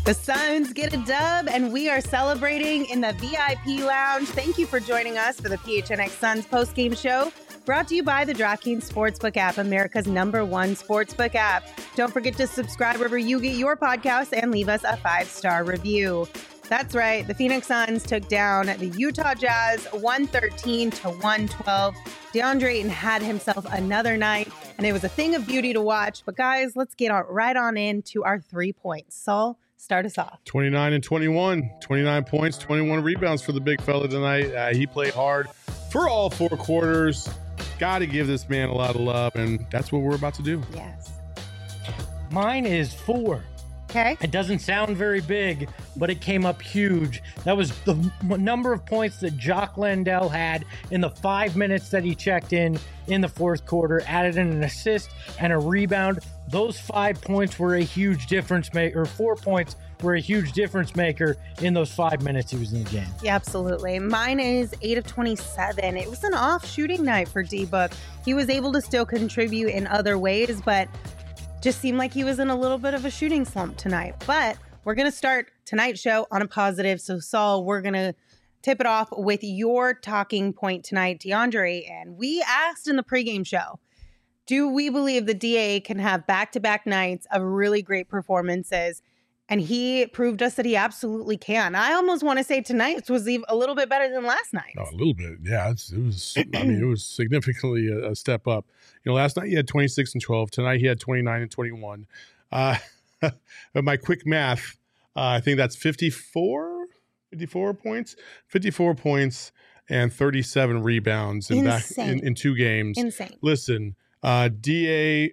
The Suns get a dub, and we are celebrating in the VIP lounge. Thank you for joining us for the PHNX Suns postgame show, brought to you by the DraftKings Sportsbook app, America's #1 sportsbook app. Don't forget to subscribe wherever you get your podcasts and leave us a 5-star review. That's right. The Phoenix Suns took down the Utah Jazz 113-112. DeAndre Ayton had himself another night, and it was a thing of beauty to watch. But guys, let's get right on into our 3 points. Saul, start us off. 29 and 21, 29 points, 21 rebounds for the big fella tonight. He played hard for all 4 quarters. Got to give this man a lot of love, and that's what we're about to do. Yes. Mine is 4. Okay. It doesn't sound very big, but it came up huge. That was the number of points that Jock Landale had in the 5 minutes that he checked in the fourth quarter, added in an assist and a rebound. Those 5 points were a huge difference maker, or 4 points were a huge difference maker in those 5 minutes he was in the game. Yeah, absolutely. Mine is 8 of 27. It was an off shooting night for D-Book. He was able to still contribute in other ways, but just seemed like he was in a little bit of a shooting slump tonight. But we're going to start tonight's show on a positive. So, Saul, we're going to tip it off with your talking point tonight, DeAndre. And we asked in the pregame show, do we believe the DA can have back-to-back nights of really great performances? And he proved us that he absolutely can. I almost want to say tonight's was even a little bit better than last night. Oh, a little bit, yeah. It was. I mean, it was significantly a step up. You know, last night he had 26 and 12. Tonight he had 29 and 21. But my quick math, I think that's 54 points, 54 points and 37 rebounds in 2 games. Insane. Listen, DA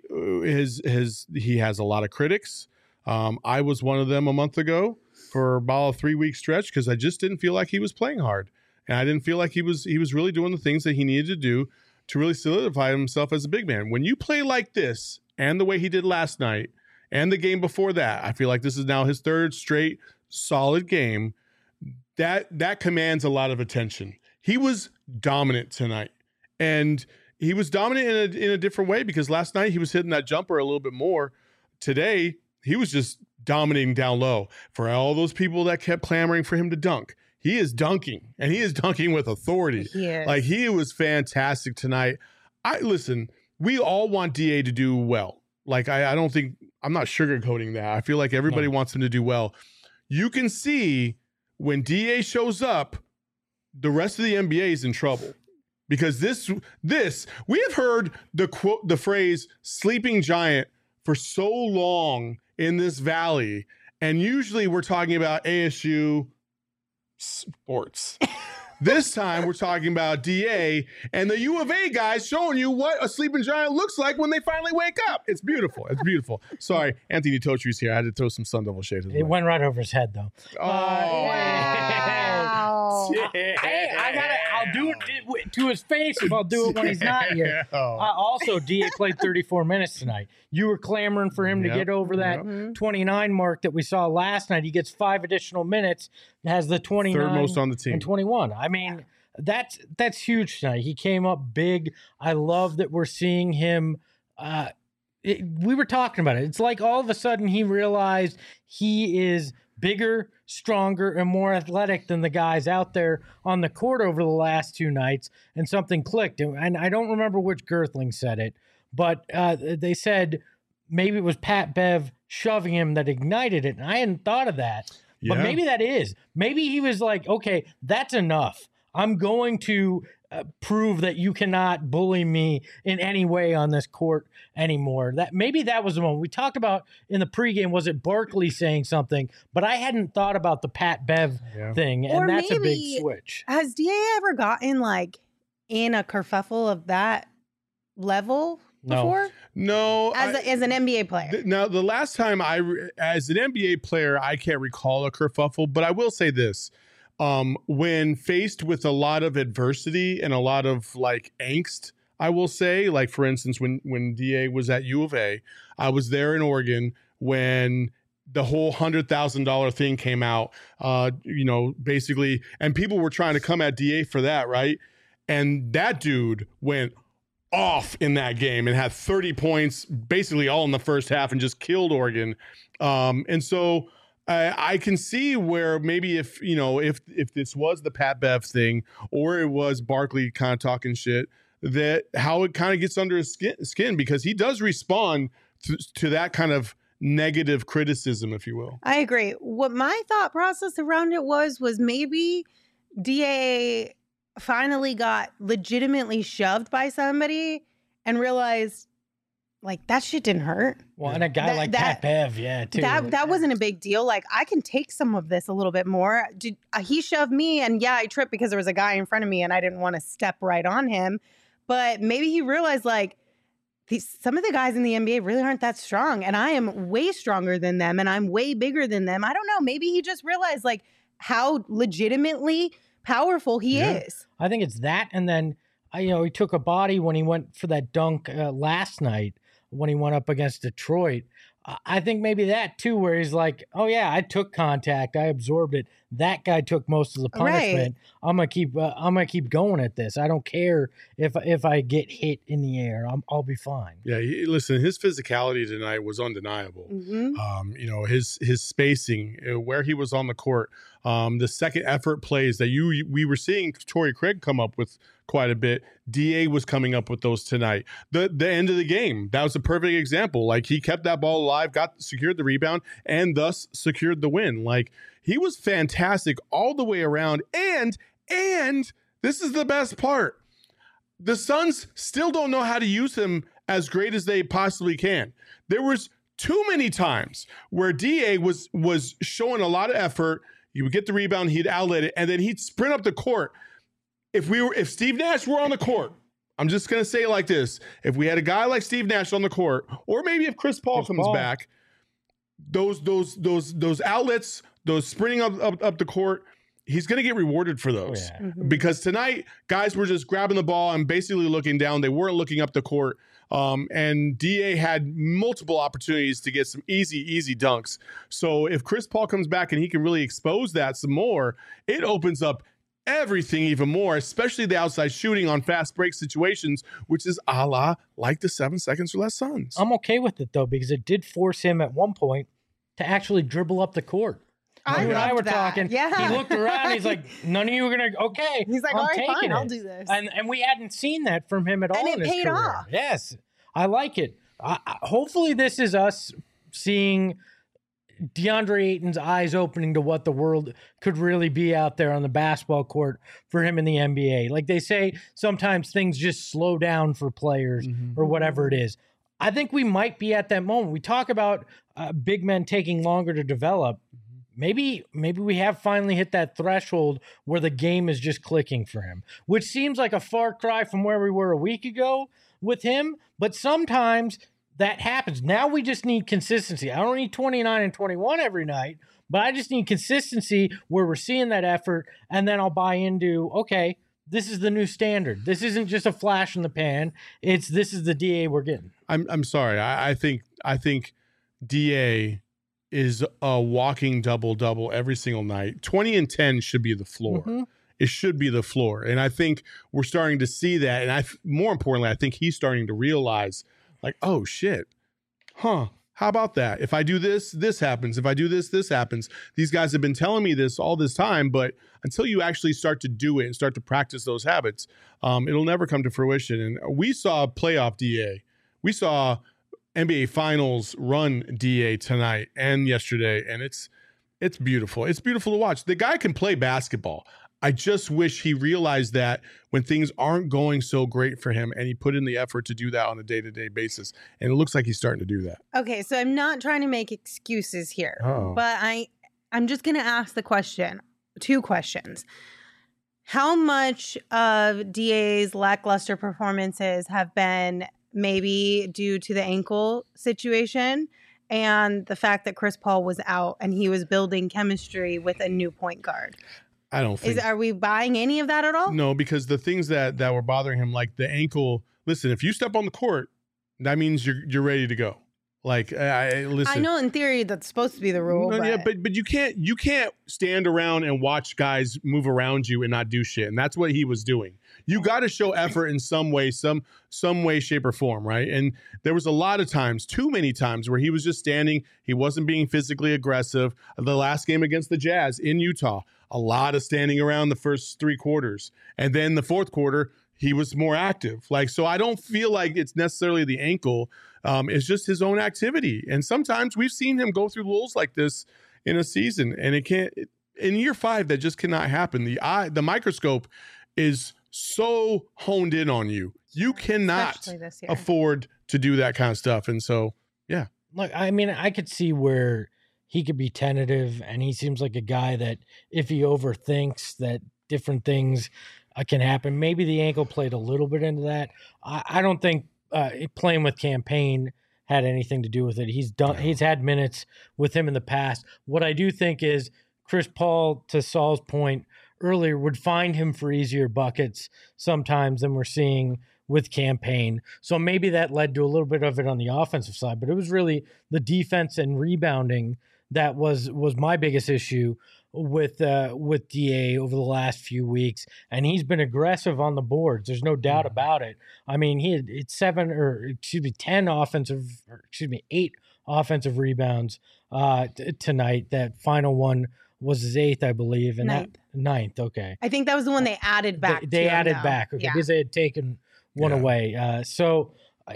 he has a lot of critics. I was one of them a month ago for about a 3-week stretch because I just didn't feel like he was playing hard. And I didn't feel like he was really doing the things that he needed to do to really solidify himself as a big man. When you play like this and the way he did last night and the game before that, I feel like this is now his 3rd straight solid game. That commands a lot of attention. He was dominant tonight. And he was dominant in a different way because last night he was hitting that jumper a little bit more. Today, he was just dominating down low. For all those people that kept clamoring for him to dunk, he is dunking, and he is dunking with authority. Like, he was fantastic tonight. Listen, we all want DA to do well. Like, I don't think, I'm not sugarcoating that. I feel like everybody wants him to do well. You can see when DA shows up, the rest of the NBA is in trouble. Because this we have heard the phrase sleeping giant for so long in this valley, and usually we're talking about ASU sports. This time we're talking about DA and the U of A guys showing you what a sleeping giant looks like when they finally wake up. It's beautiful. It's beautiful. Sorry, Anthony Totri's here. I had to throw some Sun Devil shade. It went right over his head, though. Oh, wow. I'll do it to his face if I'll do it when he's not here. Also, DA played 34 minutes tonight. You were clamoring for him to get over that 29 mark that we saw last night. He gets 5 additional minutes, has the 29 third most on the team. And 21. I mean, that's huge tonight. He came up big. I love that we're seeing him. We were talking about it. It's like all of a sudden he realized he is bigger, stronger, and more athletic than the guys out there on the court over the last 2 nights, and something clicked. And I don't remember which Girthling said it, but they said maybe it was Pat Bev shoving him that ignited it, and I hadn't thought of that. Yeah. But maybe that is. Maybe he was like, okay, that's enough. I'm going to prove that you cannot bully me in any way on this court anymore. Maybe that was the moment. We talked about in the pregame, was it Barkley saying something? But I hadn't thought about the Pat Bev thing, and or that's maybe, a big switch. Has DA ever gotten like in a kerfuffle of that level before? No. As an NBA player. Now, the last time as an NBA player, I can't recall a kerfuffle, but I will say this. When faced with a lot of adversity and a lot of like angst, I will say, like, for instance, when DA was at U of A, I was there in Oregon when the whole $100,000 thing came out, basically, and people were trying to come at DA for that, right? And that dude went off in that game and had 30 points basically all in the first half and just killed Oregon. And so I can see where maybe if this was the Pat Bev thing or it was Barkley kind of talking shit, that how it kind of gets under his skin because he does respond to that kind of negative criticism, if you will. I agree. What my thought process around it was maybe DA finally got legitimately shoved by somebody and realized, like, that shit didn't hurt. Well, and a guy like Pat Bev, too. That wasn't a big deal. Like, I can take some of this a little bit more. He shoved me, and I tripped because there was a guy in front of me, and I didn't want to step right on him. But maybe he realized, like, some of the guys in the NBA really aren't that strong, and I am way stronger than them, and I'm way bigger than them. I don't know. Maybe he just realized, like, how legitimately powerful he is. I think it's that, and then he took a body when he went for that dunk last night when he went up against Detroit. I think maybe that too, where he's like, "Oh yeah, I took contact, I absorbed it. That guy took most of the punishment. Right. I'm gonna keep going at this. I don't care if I get hit in the air. I'll be fine." Yeah, listen, his physicality tonight was undeniable. Mm-hmm. His spacing, where he was on the court, the second effort plays that we were seeing Torrey Craig come up with quite a bit. DA was coming up with those tonight. The end of the game, that was a perfect example. Like, he kept that ball alive, secured the rebound, and thus secured the win. Like, he was fantastic all the way around. And this is the best part. The Suns still don't know how to use him as great as they possibly can. There was too many times where DA was showing a lot of effort. He would get the rebound, he'd outlet it, and then he'd sprint up the court. If Steve Nash were on the court, I'm just going to say it like this. If we had a guy like Steve Nash on the court, or maybe if Chris Paul comes back, those outlets, those sprinting up the court, he's going to get rewarded for those. Oh, yeah. Mm-hmm. Because tonight, guys were just grabbing the ball and basically looking down. They weren't looking up the court. And DA had multiple opportunities to get some easy dunks. So if Chris Paul comes back and he can really expose that some more, it opens up everything even more, especially the outside shooting on fast break situations, which is a la like the 7 seconds or less Suns. I'm okay with it, though, because it did force him at one point to actually dribble up the court. You and I were talking. Yeah. He looked around. He's like, none of you are going to, okay. He's like, all right, fine, I'll do this. And we hadn't seen that from him at all in his career. And it paid off. Yes. I like it. Hopefully this is us seeing DeAndre Ayton's eyes opening to what the world could really be out there on the basketball court for him in the NBA. Like they say, sometimes things just slow down for players or whatever it is. I think we might be at that moment. We talk about big men taking longer to develop. Maybe we have finally hit that threshold where the game is just clicking for him, which seems like a far cry from where we were a week ago with him. But sometimes that happens. Now we just need consistency. I don't need 29 and 21 every night, but I just need consistency where we're seeing that effort, and then I'll buy into, okay, this is the new standard. This isn't just a flash in the pan. This is the DA we're getting. I'm sorry. I think DA is a walking double every single night. 20 and 10 should be the floor. Mm-hmm. It should be the floor. And I think we're starting to see that. And more importantly, I think he's starting to realize, like, oh shit, how about that? If I do this, this happens. If I do this, this happens. These guys have been telling me this all this time, but until you actually start to do it and start to practice those habits, it'll never come to fruition. And we saw playoff DA. We saw NBA Finals run DA tonight and yesterday, and it's beautiful. It's beautiful to watch. The guy can play basketball. I just wish he realized that when things aren't going so great for him, and he put in the effort to do that on a day-to-day basis. And it looks like he's starting to do that. Okay, so I'm not trying to make excuses here, but I'm just going to ask the question, 2 questions. How much of DA's lackluster performances have been maybe due to the ankle situation and the fact that Chris Paul was out and he was building chemistry with a new point guard? I don't think. Are we buying any of that at all? No, because the things that were bothering him, like the ankle. Listen, if you step on the court, that means you're ready to go. Like, listen. I know in theory that's supposed to be the rule. No, but... yeah, but you can't stand around and watch guys move around you and not do shit. And that's what he was doing. You got to show effort in some way, some way, shape, or form, right? And there was a lot of times, too many times, where he was just standing. He wasn't being physically aggressive. The last game against the Jazz in Utah, a lot of standing around the first 3 quarters, and then the fourth quarter, he was more active. Like, so I don't feel like it's necessarily the ankle. It's just his own activity. And sometimes we've seen him go through lulls like this in a season, and it can't. In year 5, that just cannot happen. The microscope is so honed in on you. You cannot afford to do that kind of stuff. And so, yeah. Look, I mean, I could see where he could be tentative, and he seems like a guy that if he overthinks that different things can happen. Maybe the ankle played a little bit into that. I don't think playing with Campaign had anything to do with it. He's had minutes with him in the past. What I do think is Chris Paul, to Saul's point earlier, would find him for easier buckets sometimes than we're seeing with Campaign. So maybe that led to a little bit of it on the offensive side, but it was really the defense and rebounding that was my biggest issue with DA over the last few weeks, and he's been aggressive on the boards. There's no doubt about it. I mean, he had 8 offensive rebounds tonight. That final one was his 8th, I believe, and ninth. Okay, I think that was the one they added back. They added back, okay, because they had taken one away. So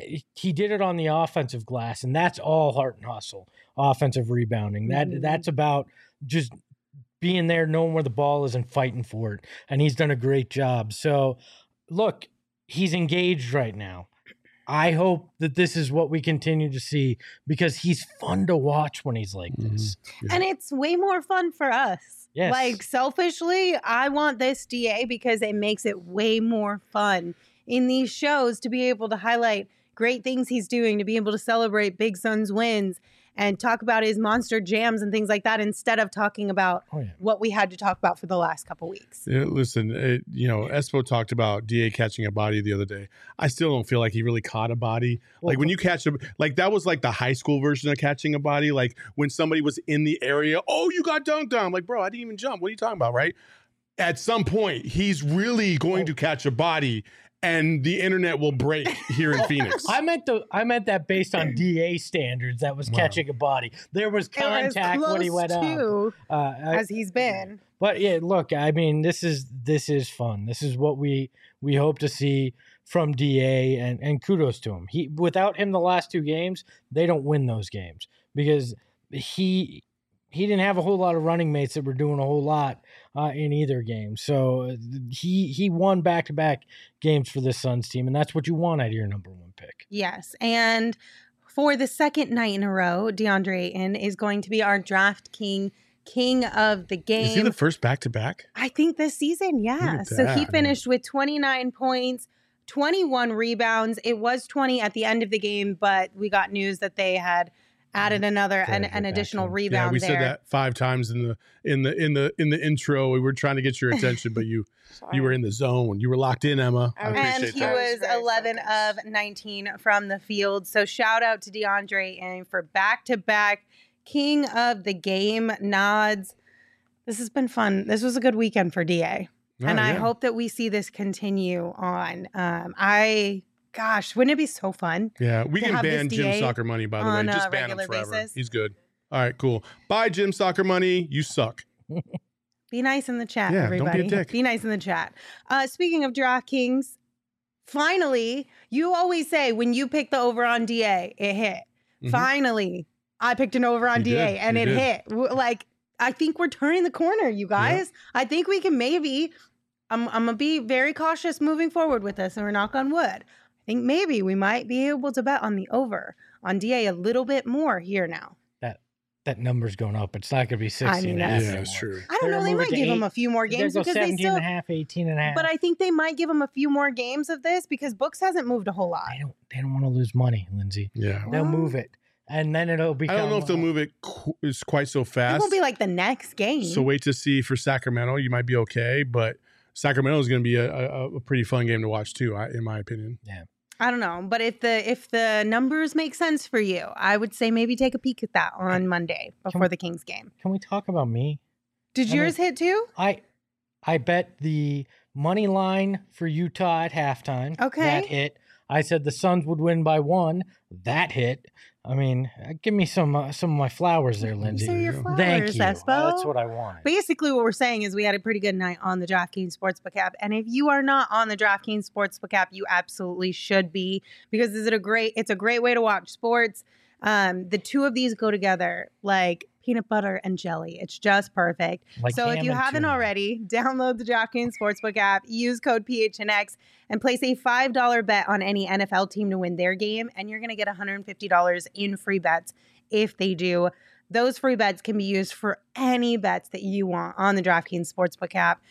he did it on the offensive glass, and that's all heart and hustle, offensive rebounding. That's about just being there, knowing where the ball is and fighting for it. And he's done a great job. So look, he's engaged right now. I hope that this is what we continue to see, because he's fun to watch when he's like this. Yeah. And it's way more fun for us. Yes. Like, selfishly, I want this DA because it makes it way more fun in these shows to be able to highlight great things he's doing, to be able to celebrate Big Suns wins and talk about his monster jams and things like that, instead of talking about what we had to talk about for the last couple weeks. Yeah, listen, Espo talked about DA catching a body the other day. I still don't feel like he really caught a body. Like, when you catch that was like the high school version of catching a body. Like, when somebody was in the area, oh, you got dunked on. I'm like, bro, I didn't even jump. What are you talking about, right? At some point, he's really going to catch a body, and the internet will break here in Phoenix. I meant that based on DA standards, that was catching a body. There was contact when he went up, as he's been. But yeah, look, I mean, this is fun. This is what we hope to see from DA, and kudos to him. Without him the last 2 games, they don't win those games, because he didn't have a whole lot of running mates that were doing a whole lot in either game. So he won back-to-back games for this Suns team, and that's what you want out of your number 1 pick. Yes, and for the second night in a row, DeAndre Ayton is going to be our Draft King of the game. Is he the first back-to-back? I think this season, yeah. So he finished with 29 points, 21 rebounds. It was 20 at the end of the game, but we got news that they had added an additional rebound. Yeah, we said that 5 times in the intro. We were trying to get your attention, but you were in the zone. You were locked in, Emma. I appreciate that. And he was 11 of 19 from the field. So shout out to DeAndre and for back-to-back King of the Game nods. This has been fun. This was a good weekend for DA. I hope that we see this continue on. Gosh, wouldn't it be so fun? Yeah, we can ban Jim Soccer Money, by the way. Just ban him forever. Basis. He's good. All right, cool. Bye, Jim Soccer Money. You suck. Be nice in the chat, everybody. Don't be a dick. Be nice in the chat. Speaking of DraftKings, finally, you always say when you pick the over on DA, it hit. Mm-hmm. Finally, I picked an over on DA and it hit. Like, I think we're turning the corner, you guys. Yeah. I think we can maybe, I'm going to be very cautious moving forward with this, and we're knock on wood. I think maybe we might be able to bet on the over on DA a little bit more here now. That number's going up. It's not going to be 16 and a half. Yeah, that's true. I don't know. They might give him a few more games because 17 and a half, 18 and a half. But I think they might give him a few more games of this because Books hasn't moved a whole lot. They don't want to lose money, Lindsay. Yeah. They'll move it. And then it'll become... I don't know if they'll move it quite so fast. It won't be like the next game. So wait to see for Sacramento. You might be okay, but Sacramento is going to be a pretty fun game to watch too, in my opinion. Yeah. I don't know, but if the numbers make sense for you, I would say maybe take a peek at that on Monday before the Kings game. Can we talk about me? Did yours hit too? I bet the money line for Utah at halftime. Okay. That hit. I said the Suns would win by 1. That hit. I mean, give me some of my flowers there, Lindsay. So your flowers, Thank you. Espo. That's what I wanted. Basically, what we're saying is we had a pretty good night on the DraftKings Sportsbook app. And if you are not on the DraftKings Sportsbook app, you absolutely should be, because it's a great way to watch sports. The two of these go together like peanut butter and jelly. It's just perfect. Like so if you haven't already, download the DraftKings Sportsbook app, use code PHNX, and place a $5 bet on any NFL team to win their game, and you're going to get $150 in free bets if they do. Those free bets can be used for any bets that you want on the DraftKings Sportsbook app.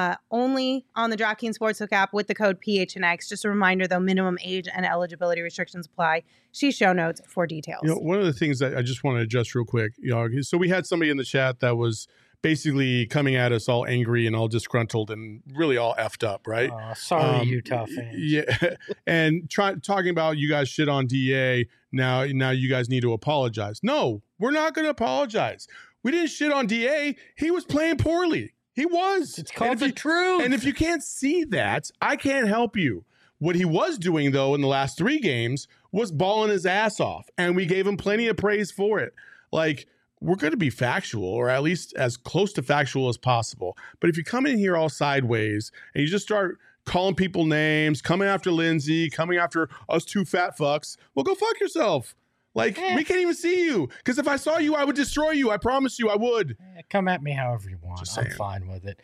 Only on the DraftKings Sportsbook app with the code PHNX. Just a reminder, though, minimum age and eligibility restrictions apply. See show notes for details. One of the things that I just want to adjust real quick, so we had somebody in the chat that was basically coming at us all angry and all disgruntled and really all effed up, right? Sorry, Utah fans. Yeah, and talking about you guys shit on DA. Now you guys need to apologize. No, we're not going to apologize. We didn't shit on DA. He was playing poorly. He was. It's called the truth. And if you can't see that, I can't help you. What he was doing, though, in the last 3 games was balling his ass off, and we gave him plenty of praise for it. Like, we're going to be factual, or at least as close to factual as possible. But if you come in here all sideways and you just start calling people names, coming after Lindsay, coming after us 2 fat fucks, well, go fuck yourself. Like, we can't even see you. Because if I saw you, I would destroy you. I promise you I would. Come at me however you want. I'm fine with it.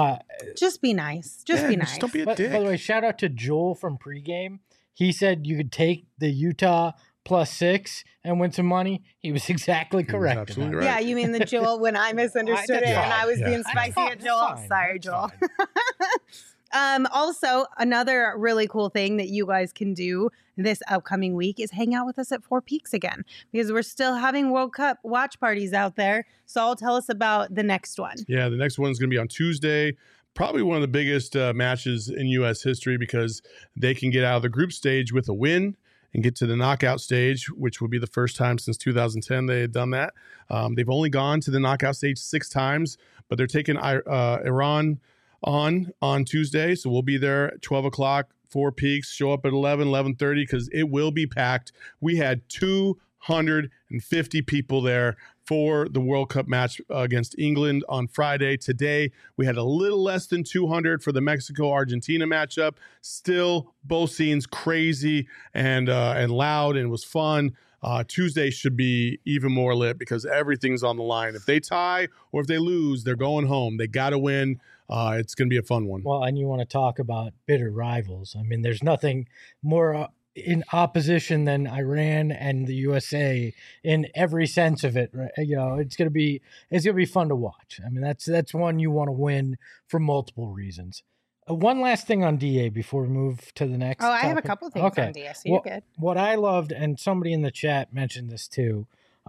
Just be nice. Just be nice. Just don't be a dick. By the way, shout out to Joel from pregame. He said you could take the Utah +6 and win some money. He was exactly correct. Absolutely right. Yeah, you mean the Joel when I misunderstood it and I was being spicy at Joel? Sorry, Joel. Also, another really cool thing that you guys can do this upcoming week is hang out with us at Four Peaks again, because we're still having World Cup watch parties out there. So I'll tell us about the next one. Yeah, the next one's going to be on Tuesday. Probably one of the biggest matches in U.S. history, because they can get out of the group stage with a win and get to the knockout stage, which would be the first time since 2010 they had done that. They've only gone to the knockout stage 6 times, but they're taking Iran on Tuesday. So we'll be there at 12 o'clock, Four Peaks. Show up at 11:30, because it will be packed. We had 250 people there for the World Cup match against England on Friday. Today, we had a little less than 200 for the Mexico-Argentina matchup. Still, both scenes crazy and loud, and it was fun. Tuesday should be even more lit, because everything's on the line. If they tie or if they lose, they're going home. They got to win. It's going to be a fun one. Well, and you want to talk about bitter rivals. I mean, there's nothing more in opposition than Iran and the USA in every sense of it. Right? You know, it's going to be fun to watch. I mean, that's one you want to win for multiple reasons. One last thing on DA before we move to the next. I have a couple of things on DA, so you're good. What I loved, and somebody in the chat mentioned this too,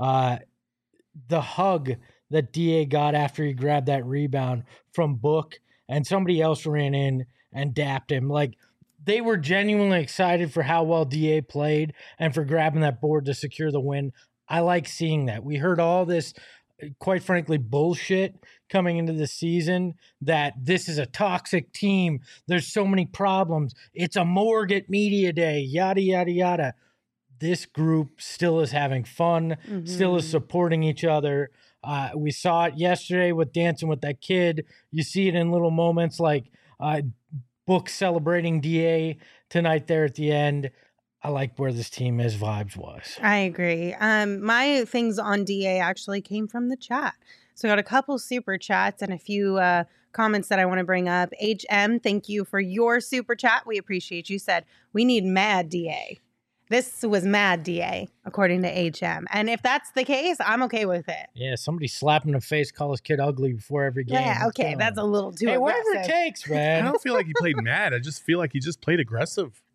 the hug that DA got after he grabbed that rebound from Book, and somebody else ran in and dapped him. Like, they were genuinely excited for how well DA played and for grabbing that board to secure the win. I like seeing that. We heard all this, quite frankly, bullshit coming into the season, that this is a toxic team. There's so many problems. It's a morgue at media day, yada, yada, yada. This group still is having fun, still is supporting each other. We saw it yesterday with Dancing with That Kid. You see it in little moments like Book celebrating DA tonight there at the end. I like where this team is vibes-wise. I agree. My things on DA actually came from the chat. So I got a couple super chats and a few comments that I want to bring up. HM, thank you for your super chat. We appreciate you. Said, we need mad DA. This was mad DA, according to HM. And if that's the case, I'm okay with it. Yeah, somebody slap him in the face, call his kid ugly before every game. Yeah, okay, that's a little too aggressive. Whatever it takes, man. I don't feel like he played mad. I just feel like he just played aggressive.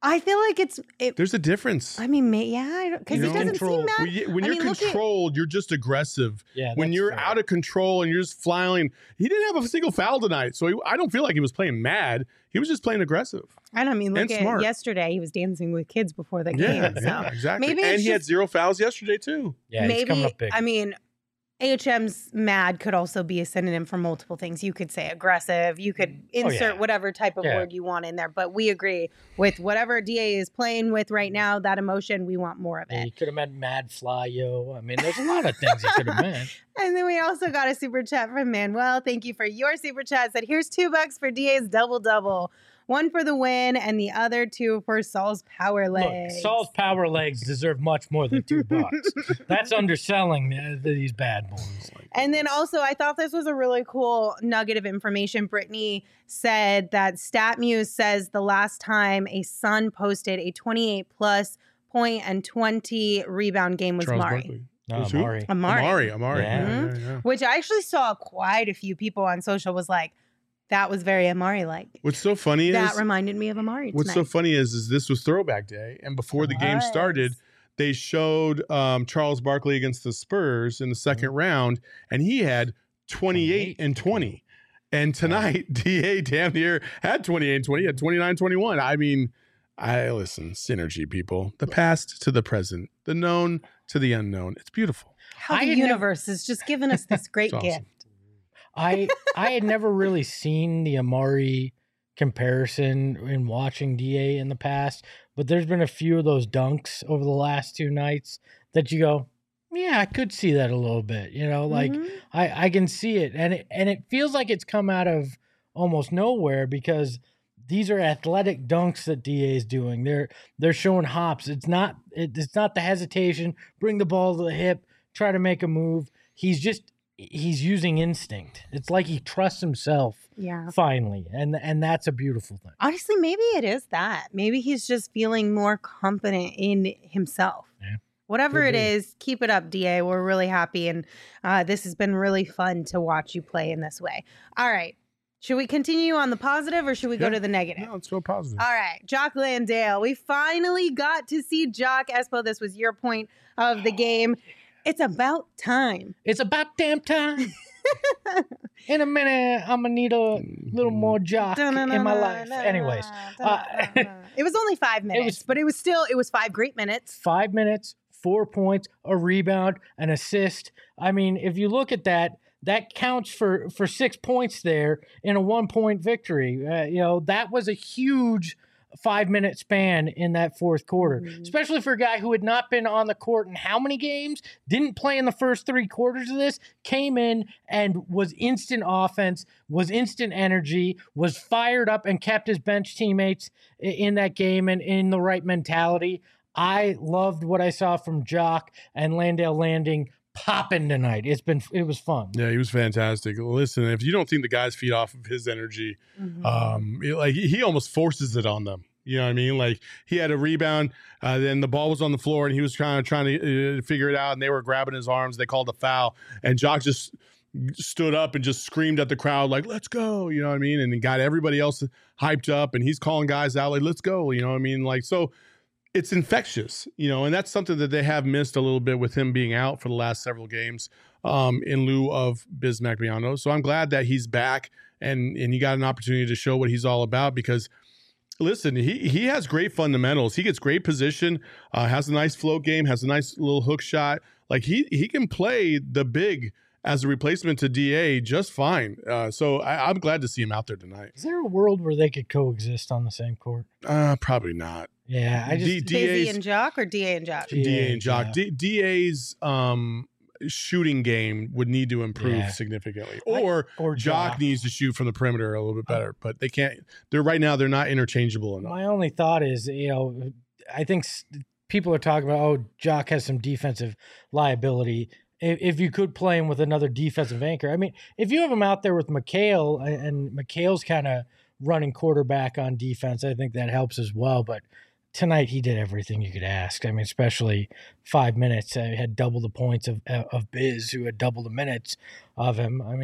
I feel like There's a difference. I mean, yeah, because he doesn't seem mad. When you're controlled, you're just aggressive. Yeah, when you're out of control and you're just flying, he didn't have a single foul tonight, so I don't feel like he was playing mad. He was just playing aggressive. And I mean, look at smart. Yesterday, he was dancing with kids before the game. So exactly. Maybe and he had 0 fouls yesterday too. Yeah, he's coming up big. I mean, AHM's mad could also be a synonym for multiple things. You could say aggressive. You could insert whatever type of word you want in there. But we agree with whatever DA is playing with right now, that emotion, we want more of it. He could have meant mad fly, yo. I mean, there's a lot of things he could have meant. And then we also got a super chat from Manuel. Thank you for your super chat. Said, here's $2 for DA's double-double. One for the win and the other 2 for Saul's power legs. Look, Saul's power legs deserve much more than $2. That's underselling these bad boys. And then also, I thought this was a really cool nugget of information. Brittany said that StatMuse says the last time a Sun posted a 28-plus point and 20 rebound game was Amari. Amari. Yeah. Which I actually saw quite a few people on social was like, that was very Amari-like. What's so funny is that reminded me of Amari tonight. What's so funny is this was throwback day, and before the game started, they showed Charles Barkley against the Spurs in the second round, and he had 28 and 20. And tonight, DA damn near had 28 and 20, had 29-21. I mean, listen, synergy, people. The past to the present, the known to the unknown. It's beautiful. How the universe has just given us this great gift. I had never really seen the Amari comparison in watching DA in the past, but there's been a few of those dunks over the last 2 nights that you go, yeah, I could see that a little bit, like I can see it. And it feels like it's come out of almost nowhere because these are athletic dunks that DA is doing. They're showing hops. It's not the hesitation, bring the ball to the hip, try to make a move. He's using instinct. It's like he trusts himself finally. And that's a beautiful thing. Honestly, maybe it is that. Maybe he's just feeling more confident in himself. Yeah. Whatever it is, keep it up, DA. We're really happy. And this has been really fun to watch you play in this way. All right. Should we continue on the positive or should we go to the negative? No, let's go positive. All right. Jock Landale. We finally got to see Jock. Espo, this was your point of the game. It's about time. It's about damn time. In a minute, I'm going to need a little more Jock in my life. Anyways. It was only 5 minutes, but it was 5 great minutes. 5 minutes, 4 points, a rebound, an assist. I mean, if you look at that counts for 6 points there in a 1-point victory. That was a huge 5-minute span in that fourth quarter, especially for a guy who had not been on the court in how many games, didn't play in the first 3 quarters of this, came in and was instant offense, was instant energy, was fired up and kept his bench teammates in that game and in the right mentality. I loved what I saw from Jock and Landale Landing popping tonight. It was fun. Yeah, he was fantastic. Listen, if you don't think the guys feed off of his energy, he almost forces it on them. You know what I mean? Like he had a rebound, then the ball was on the floor, and he was trying to figure it out, and they were grabbing his arms. They called a foul, and Jock just stood up and just screamed at the crowd like, "Let's go!" You know what I mean? And he got everybody else hyped up, and he's calling guys out like, "Let's go!" You know what I mean? Like so. It's infectious, and that's something that they have missed a little bit with him being out for the last several games in lieu of Bismack Biyombo. So I'm glad that he's back and he got an opportunity to show what he's all about because, listen, he has great fundamentals. He gets great position, has a nice float game, has a nice little hook shot. Like he can play the big as a replacement to DA just fine. So I'm glad to see him out there tonight. Is there a world where they could coexist on the same court? Probably not. Yeah, I just Busy and Jock or DA and Jock? DA and Jock. DA's shooting game would need to improve significantly, or Jock needs to shoot from the perimeter a little bit better. But they can't. They're not interchangeable enough. My only thought is, I think people are talking about, Jock has some defensive liability. If you could play him with another defensive anchor, I mean, if you have him out there with McHale and McHale's kind of running quarterback on defense, I think that helps as well. But tonight he did everything you could ask. I mean, especially 5 minutes. He had double the points of Biz, who had double the minutes of him. I mean,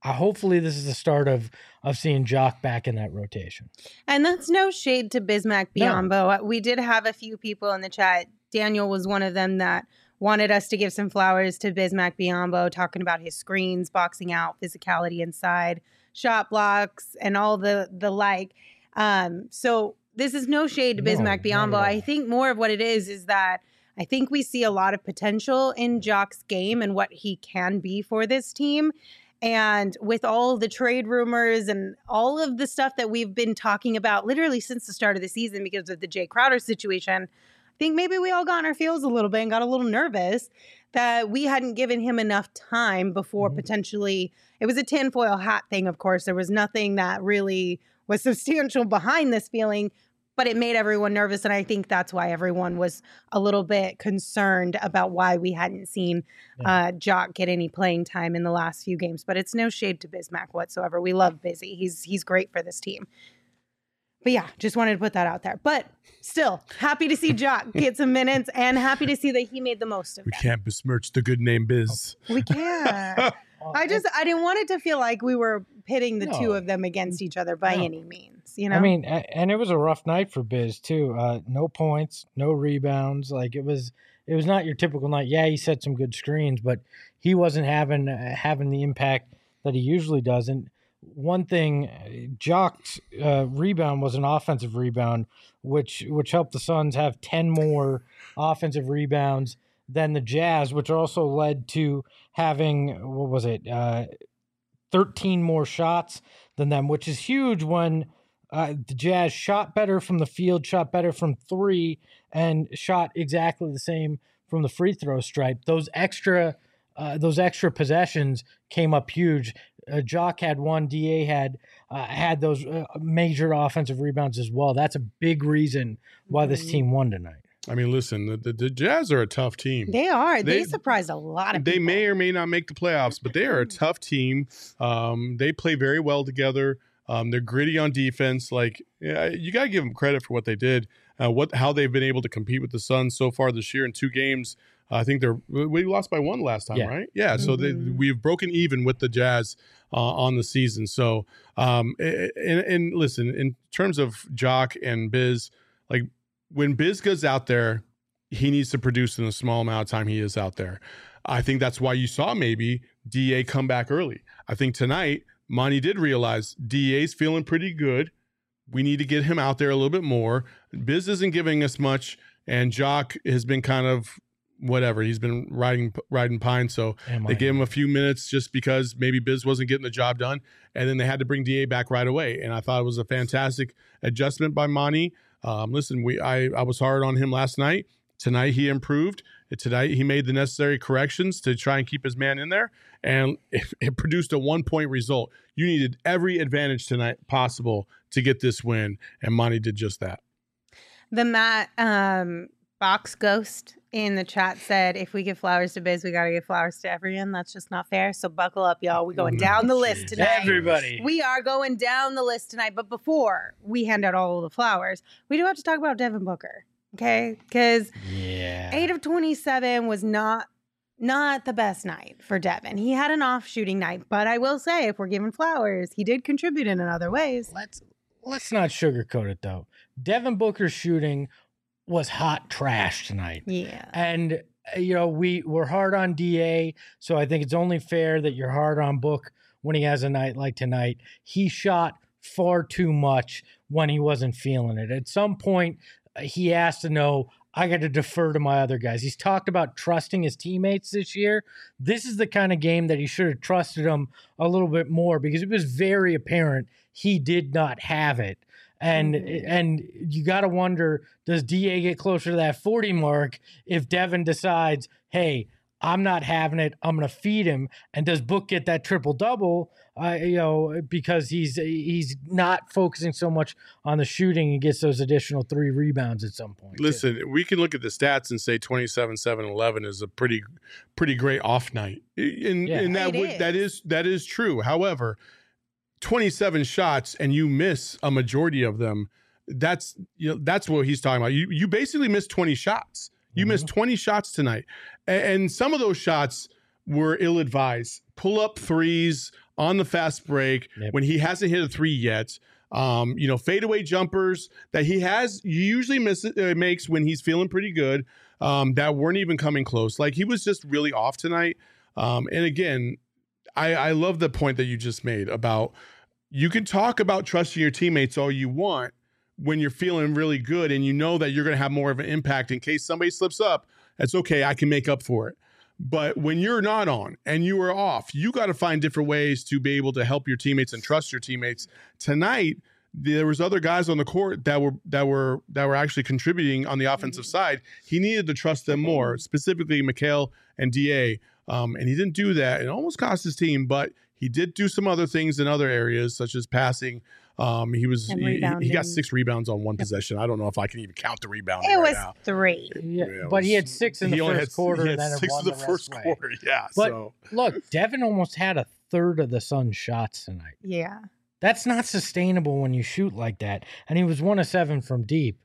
hopefully this is the start of seeing Jock back in that rotation. And that's no shade to Bismack No. Biyombo. We did have a few people in the chat. Daniel was one of them that wanted us to give some flowers to Bismack Biyombo, talking about his screens, boxing out, physicality inside, shot blocks, and all the like. So this is no shade to No, Bismack not at Biyombo. all. I think more of what it is that I think we see a lot of potential in Jock's game and what he can be for this team. And with all the trade rumors and all of the stuff that we've been talking about literally since the start of the season because of the Jay Crowder situation, I think maybe we all got in our feels a little bit and got a little nervous that we hadn't given him enough time before potentially. It was a tinfoil hat thing, of course. There was nothing that really was substantial behind this feeling, but it made everyone nervous. And I think that's why everyone was a little bit concerned about why we hadn't seen Jock get any playing time in the last few games. But it's no shade to Bismack whatsoever. We love Busy. He's great for this team. But yeah, just wanted to put that out there. But still, happy to see Jock get some minutes and happy to see that he made the most of We it. can't besmirch the good name Biz. We can't. I didn't want it to feel like we were pitting the two of them against each other by any means, you know? I mean, and it was a rough night for Biz too. No points, no rebounds. Like it was not your typical night. Yeah, he set some good screens, but he wasn't having the impact that he usually does. And one thing, Jock's rebound was an offensive rebound, which helped the Suns have 10 more offensive rebounds than the Jazz, which also led to having 13 more shots than them, which is huge when the Jazz shot better from the field, shot better from three, and shot exactly the same from the free throw stripe. Those extra possessions came up huge. Jock had one. Da had those major offensive rebounds as well. That's a big reason why this team won tonight. I mean, listen, the Jazz are a tough team. They are. They surprised a lot of people. They may or may not make the playoffs, but they are a tough team. They play very well together. They're gritty on defense. Like, you got to give them credit for what they did, how they've been able to compete with the Suns so far this year in 2 games. I think we lost by 1 last time, right? Yeah. So we've broken even with the Jazz on the season. So, and listen, in terms of Jock and Biz, like when Biz goes out there, he needs to produce in the small amount of time he is out there. I think that's why you saw maybe DA come back early. I think tonight, Monty did realize DA's feeling pretty good. We need to get him out there a little bit more. Biz isn't giving us much, and Jock has been kind of whatever. He's been riding pine, so they gave him a few minutes just because maybe Biz wasn't getting the job done, and then they had to bring DA back right away. And I thought it was a fantastic adjustment by Monty. Listen, I was hard on him last night. Tonight he improved. Tonight he made the necessary corrections to try and keep his man in there, and it produced a 1-point result. You needed every advantage tonight possible to get this win, and Monty did just that. The Matt Box Ghost in the chat said, if we give flowers to Biz, we got to give flowers to everyone. That's just not fair. So buckle up, y'all. We're going down the list tonight. Everybody. We are going down the list tonight. But before we hand out all of the flowers, we do have to talk about Devin Booker. Okay? Because 8 of 27 was not the best night for Devin. He had an off shooting night. But I will say, if we're giving flowers, he did contribute in other ways. Let's not sugarcoat it, though. Devin Booker's shooting was hot trash tonight. Yeah. And, we're hard on DA, so I think it's only fair that you're hard on Book when he has a night like tonight. He shot far too much when he wasn't feeling it. At some point, he has to know, I got to defer to my other guys. He's talked about trusting his teammates this year. This is the kind of game that he should have trusted them a little bit more, because it was very apparent he did not have it. And you got to wonder, does DA get closer to that 40 mark if Devin decides, hey, I'm not having it, I'm going to feed him? And does Book get that triple-double, because he's not focusing so much on the shooting and gets those additional 3 rebounds at some point? Listen, we can look at the stats and say 27, 7, 11 is a pretty great off night. And that is true. However, 27 shots and you miss a majority of them, that's what he's talking about. You basically missed 20 shots. You missed 20 shots tonight. And some of those shots were ill-advised. pull up threes on the fast break when he hasn't hit a three yet. Fadeaway jumpers that he usually makes when he's feeling pretty good, that weren't even coming close. Like, he was just really off tonight. And again, I love the point that you just made about, you can talk about trusting your teammates all you want when you're feeling really good and you know that you're going to have more of an impact in case somebody slips up. That's okay. I can make up for it. But when you're not on and you are off, you got to find different ways to be able to help your teammates and trust your teammates. Tonight, there was other guys on the court that were actually contributing on the offensive side. He needed to trust them more, specifically Mikal and DA. And he didn't do that. It almost cost his team, but he did do some other things in other areas, such as passing. He got 6 rebounds on one possession. I don't know if I can even count the rebound. It was now. 3. Yeah, but he had 6 in the first quarter. He had and then 6 in the first quarter. Yeah. But look, Devin almost had a third of the Suns' shots tonight. Yeah. That's not sustainable when you shoot like that. And he was 1 of 7 from deep.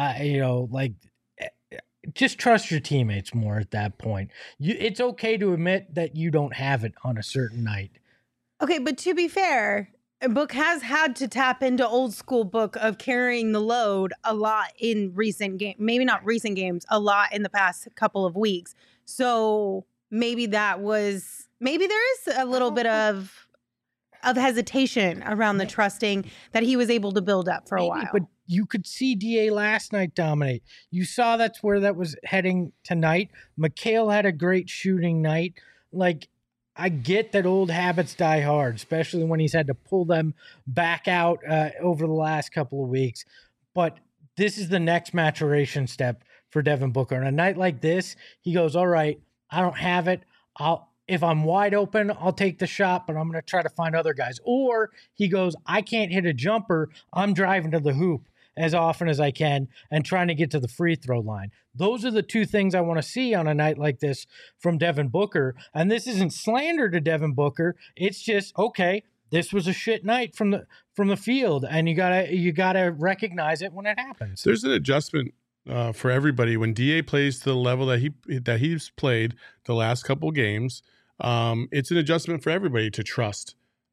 Just trust your teammates more at that point. It's okay to admit that you don't have it on a certain night. Okay, but to be fair, Book has had to tap into old school Book of carrying the load a lot in recent games. Maybe not recent games, a lot in the past couple of weeks. So maybe there is a little bit of hesitation around the trusting that he was able to build up for a while. But you could see DA last night dominate. You saw that's where that was heading tonight. Mikal had a great shooting night. Like, I get that old habits die hard, especially when he's had to pull them back out over the last couple of weeks. But this is the next maturation step for Devin Booker. On a night like this, he goes, all right, I don't have it. If I'm wide open, I'll take the shot, but I'm going to try to find other guys. Or he goes, I can't hit a jumper. I'm driving to the hoop as often as I can and trying to get to the free throw line. Those are the two things I want to see on a night like this from Devin Booker. And this isn't slander to Devin Booker. It's just, okay, this was a shit night from the field, and you gotta recognize it when it happens. There's an adjustment for everybody when DA plays to the level that he's played the last couple games. It's an adjustment for everybody to trust.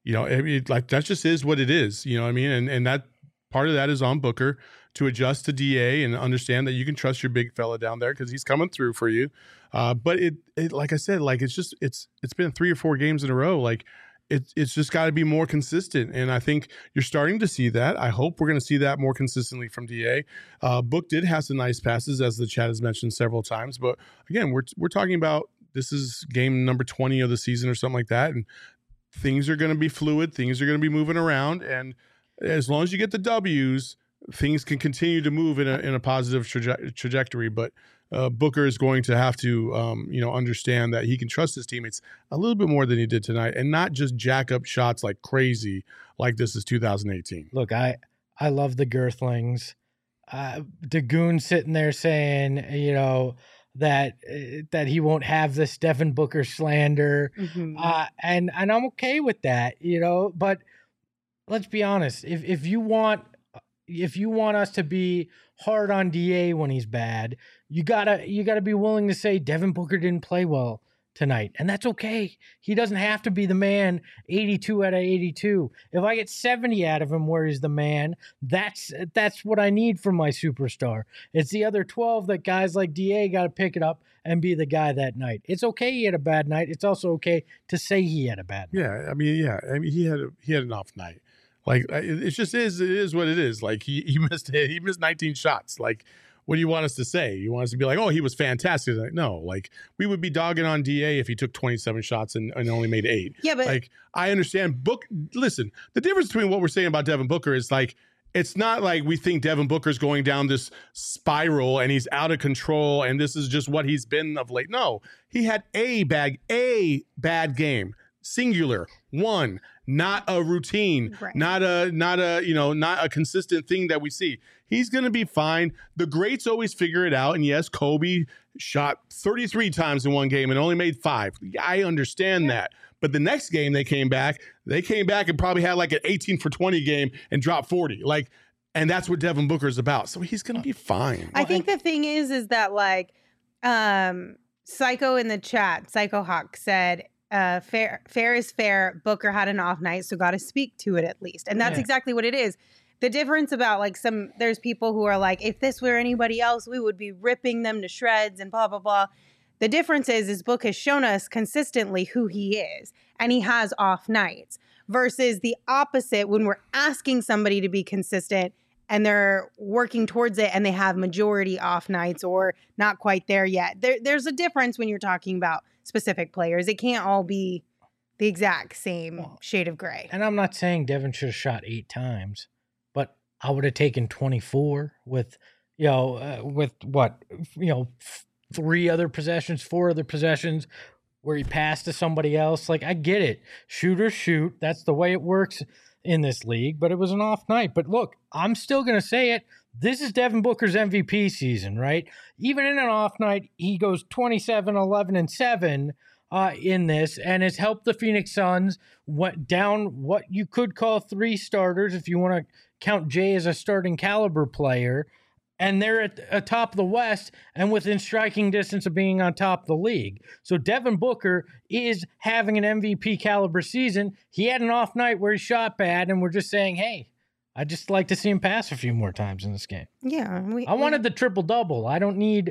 That just is what it is. You know what I mean? And that part of that is on Booker to adjust to DA and understand that you can trust your big fella down there because he's coming through for you. But it like I said, like it's been 3 or 4 games in a row. Like it's just got to be more consistent. And I think you're starting to see that. I hope we're going to see that more consistently from DA. Book did have some nice passes, as the chat has mentioned several times. But again, we're talking about, this is game number 20 of the season or something like that. And things are going to be fluid. Things are going to be moving around. And as long as you get the W's, things can continue to move in a positive trajectory. But Booker is going to have to, understand that he can trust his teammates a little bit more than he did tonight, and not just jack up shots like crazy, like this is 2018. Look, I love the Girthlings. Dagoon sitting there saying, that he won't have this Devin Booker slander, and I'm okay with that, But let's be honest, if you want us to be hard on DA when he's bad, you gotta be willing to say Devin Booker didn't play well tonight, and that's okay. He doesn't have to be the man 82 out of 82. If I get 70 out of him where he's the man, that's what I need from my superstar. It's the other 12 that guys like DA got to pick it up and be the guy that night. It's okay he had a bad night. It's also okay to say he had a bad night. Yeah, he had an off night. Like, it just is. It is what it is. Like, he missed 19 shots. Like, what do you want us to say? You want us to be like, oh, he was fantastic? Like, no, like, we would be dogging on DA if he took 27 shots and only made 8. Yeah, but like, I understand. Listen, the difference between what we're saying about Devin Booker is, like, it's not like we think Devin Booker's going down this spiral and he's out of control and this is just what he's been of late. No, he had a bad game. Singular, one, not a routine, right. not a consistent thing that we see. He's going to be fine. The greats always figure it out. And yes, Kobe shot 33 times in one game and only made 5. I understand that. But the next game they came back and probably had like an 18 for 20 game and dropped 40. Like, and that's what Devin Booker is about. So he's going to be fine. I think the thing is that, like, Psycho in the chat, Psycho Hawk said, fair is fair. Booker had an off night, so got to speak to it at least. And that's exactly what it is. The difference about like there's people who are like, if this were anybody else, we would be ripping them to shreds and blah, blah, blah. The difference is Book has shown us consistently who he is, and he has off nights versus the opposite when we're asking somebody to be consistent and they're working towards it and they have majority off nights or not quite there yet. There's a difference when you're talking about specific players. It can't all be the exact same shade of gray. And I'm not saying Devin should have shot 8 times, but I would have taken 24 with, with what, 3 other possessions, 4 other possessions where he passed to somebody else. Like, I get it. Shooters shoot. That's the way it works in this league, but it was an off night. But look, I'm still going to say it. This is Devin Booker's MVP season, right? Even in an off night, he goes 27, 11, and 7 in this, and has helped the Phoenix Suns down what you could call 3 starters if you want to count Jay as a starting caliber player. And they're at the top of the West and within striking distance of being on top of the league. So Devin Booker is having an MVP caliber season. He had an off night where he shot bad, and we're just saying, hey, I'd just like to see him pass a few more times in this game. Yeah. I wanted the triple-double. I don't need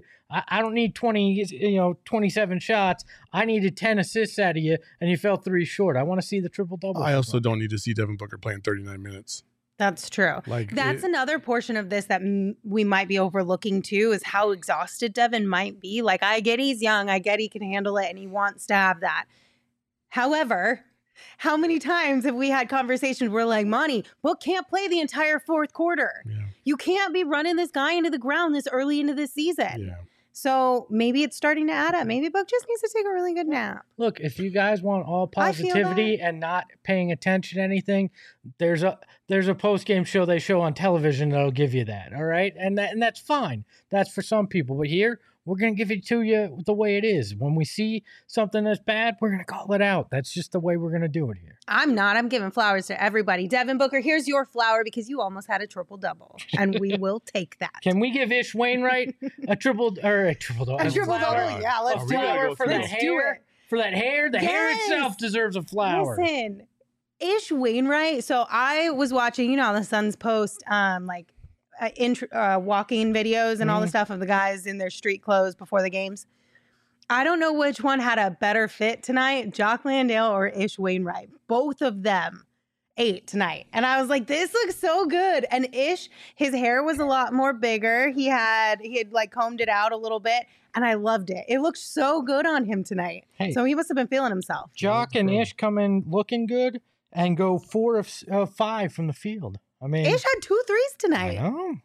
27 shots. I needed 10 assists out of you, and you fell 3 short. I want to see the triple-double. I also don't need to see Devin Booker playing 39 minutes. That's true. That's another portion of this that we might be overlooking too, is how exhausted Devin might be. Like, I get he's young. I get he can handle it and he wants to have that. However, how many times have we had conversations where like, Monty, Book can't play the entire 4th quarter. Yeah. You can't be running this guy into the ground this early into the season. Yeah. So maybe it's starting to add up. Maybe Book just needs to take a really good nap. Look, if you guys want all positivity and not paying attention to anything, there's a post-game show they show on television that'll give you that, all right? And that's fine. That's for some people. But here, we're going to give it to you the way it is. When we see something that's bad, we're going to call it out. That's just the way we're going to do it here. I'm not. I'm giving flowers to everybody. Devin Booker, here's your flower because you almost had a triple-double, and we will take that. Can we give Ish Wainwright a triple-double? A triple-double? Yeah, let's do it. For that hair. For that hair. The hair itself deserves a flower. Listen, Ish Wainwright. So I was watching, the Suns post walking videos and all the stuff of the guys in their street clothes before the games. I don't know which one had a better fit tonight, Jock Landale or Ish Wainwright. Both of them ate tonight. And I was like, this looks so good. And Ish, his hair was a lot more bigger. He had like combed it out a little bit. And I loved it. It looked so good on him tonight. Hey, so he must have been feeling himself. Jock and Ish come in looking good and go 4 of 5 from the field. I mean, Ish had 2 threes tonight. I know.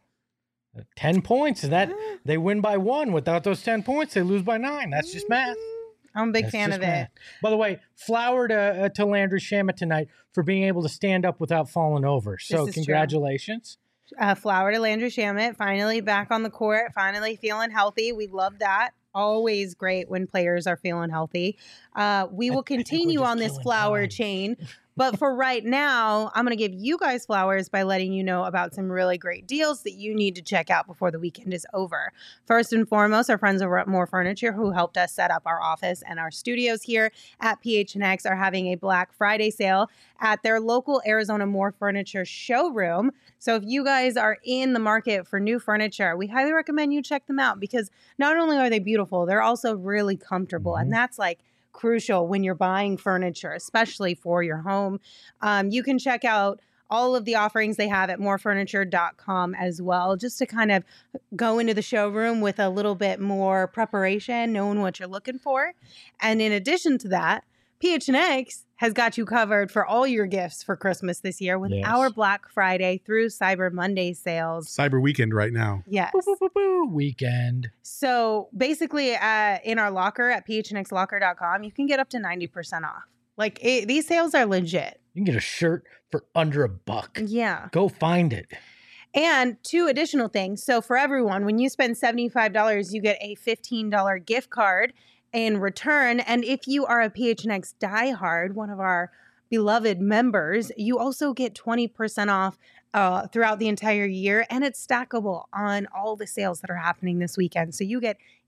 10 points. They win by 1. Without those 10 points, they lose by 9. That's just math. I'm a big fan of it. By the way, flower to Landry Shamet tonight for being able to stand up without falling over. So congratulations. Flower to Landry Shamet. Finally back on the court. Finally feeling healthy. We love that. Always great when players are feeling healthy. We will continue on this flower chain. But for right now, I'm going to give you guys flowers by letting you know about some really great deals that you need to check out before the weekend is over. First and foremost, our friends over at More Furniture, who helped us set up our office and our studios here at PHNX, are having a Black Friday sale at their local Arizona More Furniture showroom. So if you guys are in the market for new furniture, we highly recommend you check them out because not only are they beautiful, they're also really comfortable. And that's like crucial when you're buying furniture, especially for your home. You can check out all of the offerings they have at morefurniture.com as well, just to kind of go into the showroom with a little bit more preparation, knowing what you're looking for. And in addition to that, PHNX has got you covered for all your gifts for Christmas this year with our Black Friday through Cyber Monday sales. Cyber weekend right now. Yes. Weekend. So basically in our locker at phnxlocker.com, you can get up to 90% off. Like these sales are legit. You can get a shirt for under $1. Yeah. Go find it. And 2 additional things. So for everyone, when you spend $75, you get a $15 gift card in return. And if you are a PHNX diehard, one of our beloved members, you also get 20% off throughout the entire year. And it's stackable on all the sales that are happening this weekend. So you get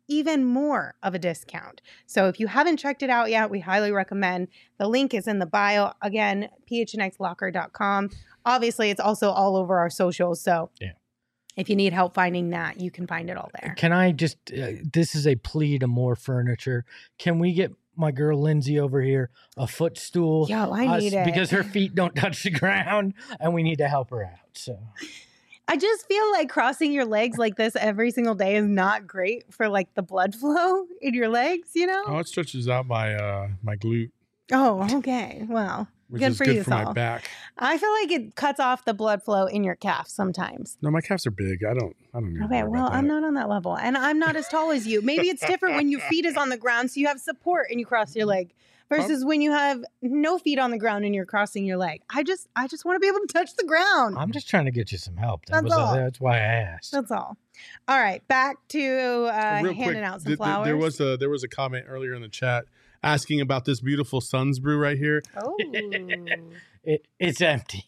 even more of a discount. So if you haven't checked it out yet, we highly recommend. The link is in the bio. Again, phnxlocker.com. Obviously, it's also all over our socials. So if you need help finding that, you can find it all there. Can I just, this is a plea to more furniture. Can we get my girl Lindsay over here a footstool? Yo, I need it. Because her feet don't touch the ground and we need to help her out. So I just feel like crossing your legs like this every single day is not great for like the blood flow in your legs, you know? Oh, it stretches out my my glute, Oh, okay. Well, which good is for good you, for my Saul. back. I feel like it cuts off the blood flow in your calf sometimes. No, my calves are big. I don't need Okay, to worry well, about I'm that. not on that level, and I'm not as tall as you. Maybe it's different when your feet is on the ground, so you have support and you cross your leg, versus when you have no feet on the ground and you're crossing your leg. I just want to be able to touch the ground. I'm just trying to get you some help. That's all. That's why I asked. That's all. All right, back to Real handing quick, out some flowers. there was a comment earlier in the chat asking about this beautiful Suns brew right here. Oh. It's empty.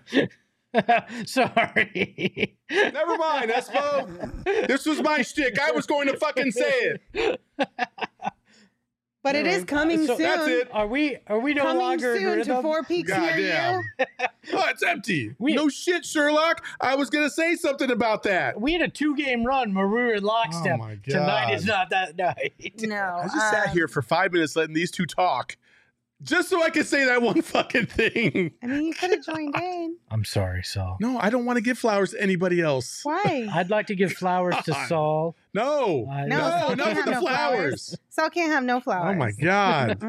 Sorry. Never mind, Espo. This was my shtick. I was going to fucking say it. But it is coming So soon. That's it. Are we no Coming longer in soon to rhythm? Four Peaks near Goddamn. you. Oh, it's empty. We- No shit, Sherlock. I was gonna say something about that. We had a 2-game run where we were in lockstep. Oh my God. Tonight is not that night. No. I just sat here for 5 minutes letting these two talk, just so I could say that one fucking thing. I mean, you could have joined in. I'm sorry, Saul. No, I don't want to give flowers to anybody else. Why? I'd like to give flowers to God. Saul. No, No, No, no, Saul enough can't with have the no flowers. Saul can't have no flowers. Oh my God.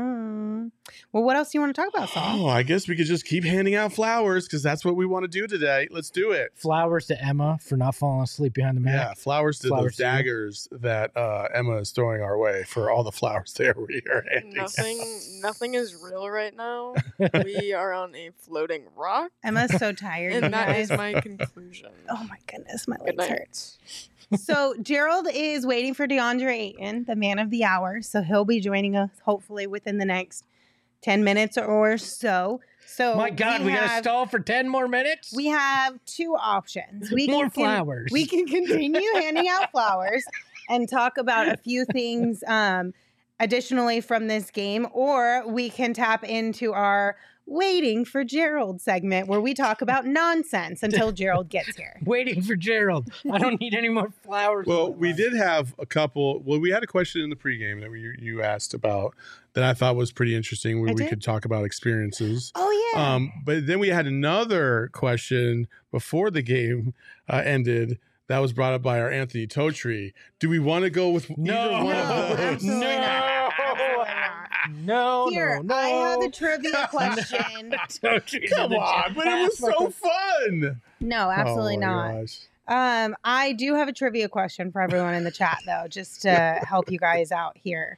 Well, what else do you want to talk about, Saul? Oh, I guess we could just keep handing out flowers because that's what we want to do today. Let's do it. Flowers to Emma for not falling asleep behind the Yeah, mat. flowers to Flowers those to you. daggers that Emma is throwing our way for all the flowers there we are handing out. Nothing is real right now. We are on a floating rock, Emma's so tired. you and that guys. is my conclusion. Oh my goodness, my Good legs hurt. night. So Gerald is waiting for DeAndre Ayton, the man of the hour. So he'll be joining us hopefully within the next 10 minutes or so. So My God, we gotta have- stall for 10 more minutes? We have two options. We More can, flowers. We can continue handing out flowers and talk about a few things additionally from this game, or we can tap into our waiting for Gerald segment where we talk about nonsense until Gerald gets here. Waiting for Gerald. I don't need any more flowers. Well, we did have a couple. Well, we had a question in the pregame that you asked about that I thought was pretty interesting, where I we did? could talk about experiences. Oh yeah. But then we had another question before the game ended that was brought up by our Anthony Totri. Do we want to go with either one of those? absolutely No. not. Absolutely not. No, Here, no, no. I have a trivia question. Come on, but it was so fun. No, absolutely Oh, my not. gosh. I do have a trivia question for everyone in the chat, though, just to help you guys out here.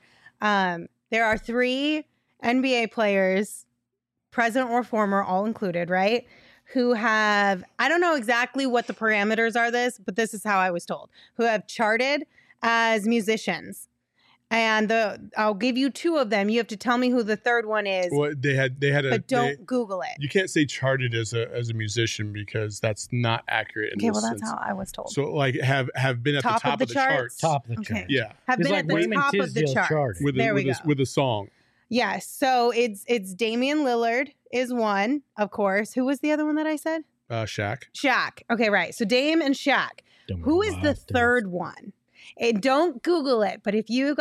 There are 3 NBA players, present or former, all included, right? Who have, I don't know exactly what the parameters are but this is how I was told, who have charted as musicians. And I'll give you 2 of them. You have to tell me who the third one is, Well, they had a. but don't Google it. You can't say charted as a musician because that's not accurate. Okay, well, that's how I was told. So like have been at the top of the charts. Top of the Okay. chart. Yeah, Have It's been like at the Raymond top of the Tisdale charts. charted. with There we go. with a song. Yes. So it's Damian Lillard is one, of course. Who was the other one that I said? Shaq. Shaq. Okay, right. So Dame and Shaq. Who is the third one? And don't Google it, but if you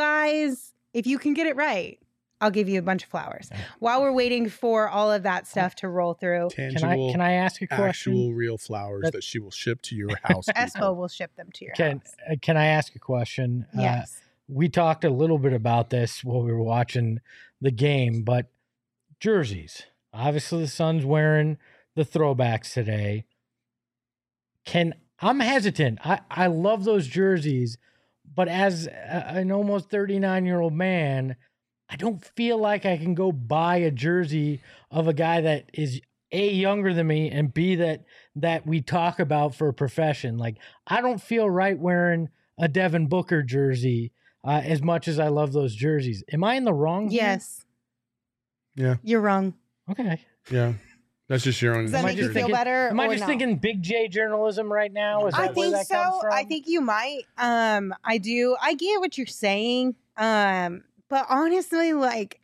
can get it right, I'll give you a bunch of flowers. While we're waiting for all of that stuff to roll through, Tangible, Can I ask a question? actual real flowers that she will ship to your house. Espo will ship them to your house. Can I ask a question? Yes. We talked a little bit about this while we were watching the game, but jerseys. Obviously, the Suns wearing the throwbacks today. I'm hesitant. I love those jerseys, but as an almost 39-year-old man, I don't feel like I can go buy a jersey of a guy that is A, younger than me, and B, that we talk about for a profession. Like, I don't feel right wearing a Devin Booker jersey as much as I love those jerseys. Am I in the wrong here? Yes. Yeah. You're wrong. Okay. Yeah. That's just your own. Does that Am I make you just feel thinking- better? Am I or just no? thinking big J journalism right now? Is I that where think that so. comes from? I think you might. I do. I get what you're saying. But honestly, like,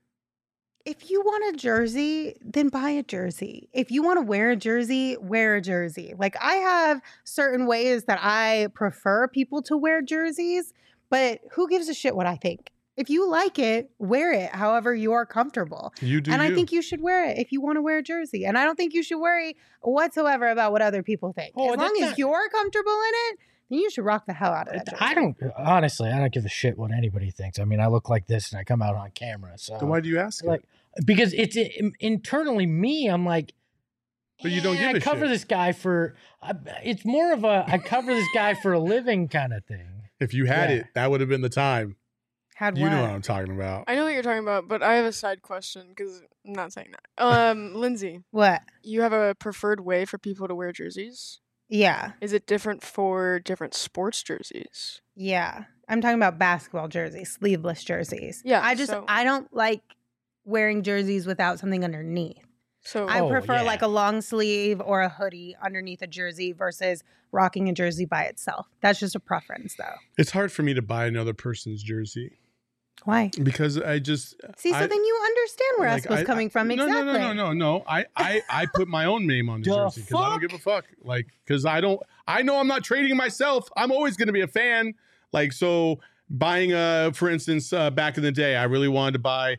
if you want a jersey, then buy a jersey. If you want to wear a jersey, wear a jersey. Like, I have certain ways that I prefer people to wear jerseys, but who gives a shit what I think? If you like it, wear it however you are comfortable. You do. And you. I think you should wear it if you want to wear a jersey. And I don't think you should worry whatsoever about what other people think. Oh, as long that's as not- you're comfortable in it, then you should rock the hell out of that jersey. I don't give a shit what anybody thinks. I mean, I look like this and I come out on camera. So Then why do you ask? like because it's internally me, I'm like, But you don't give I a cover shit. this guy for. It's more of a I cover this guy for a living kind of thing. If you had Yeah. it, that would have been the time. Had You what? know what I'm talking about. I know what you're talking about, but I have a side question because I'm not saying that. Lindsay, What? you have a preferred way for people to wear jerseys? Yeah. Is it different for different sports jerseys? Yeah. I'm talking about basketball jerseys, sleeveless jerseys. Yeah, I I don't like wearing jerseys without something underneath. So I Oh, prefer yeah. like a long sleeve or a hoodie underneath a jersey versus rocking a jersey by itself. That's just a preference though. It's hard for me to buy another person's jersey Why? because I just See, so I- then you understand where like, Espo's coming from. No, Exactly. no. I put my own name on the The jersey because I don't fuck? give a fuck. Like, because I know I'm not trading myself. I'm always going to be a fan. Like, so buying for instance, back in the day, I really wanted to buy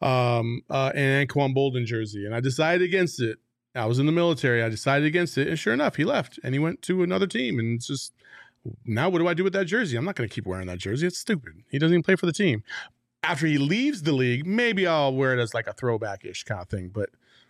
an Anquan Bolden jersey, and I decided against it. I was in the military. I decided against it, and sure enough, he left and he went to another team. And it's just now, what do I do with that jersey? I'm not going to keep wearing that jersey. It's stupid. He doesn't even play for the team. After he leaves the league, maybe I'll wear it as like a throwback-ish kind of thing. But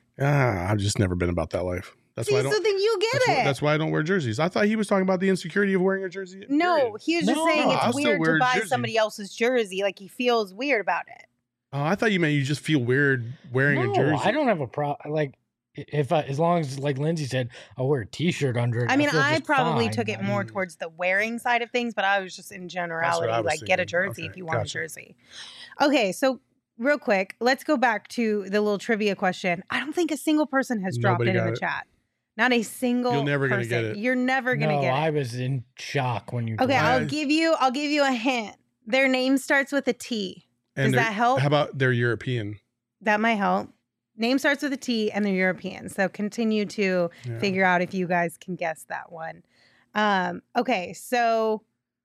I've just never been about that life. That's See, why I so don't. then you get it. That's why I don't wear jerseys. I thought he was talking about the insecurity of wearing a jersey. No, period. he was just No, saying no, I'll it's still weird wear to a buy jersey. somebody else's jersey. Like he feels weird about it. Oh, I thought you meant you just feel weird wearing No, a jersey. I don't have a problem. Like if as long as like Lindsay said, I'll wear a T-shirt under it. I mean, feel I just probably fine. took it more Mm. towards the wearing side of things, but I was just in generality, was like get a thinking. jersey Okay, if you want gotcha. a jersey. Okay, so real quick, let's go back to the little trivia question. I don't think a single person has dropped Nobody it in got the it. chat. Not a single You're never gonna person. get it. You're never gonna No, get I it. was in shock when you. Okay, told me. I'll give you a hint. Their name starts with a T. And Does they're- that help? How about they're European? That might help. Name starts with a T and they're European. So continue to Yeah. figure out if you guys can guess that one. Okay, so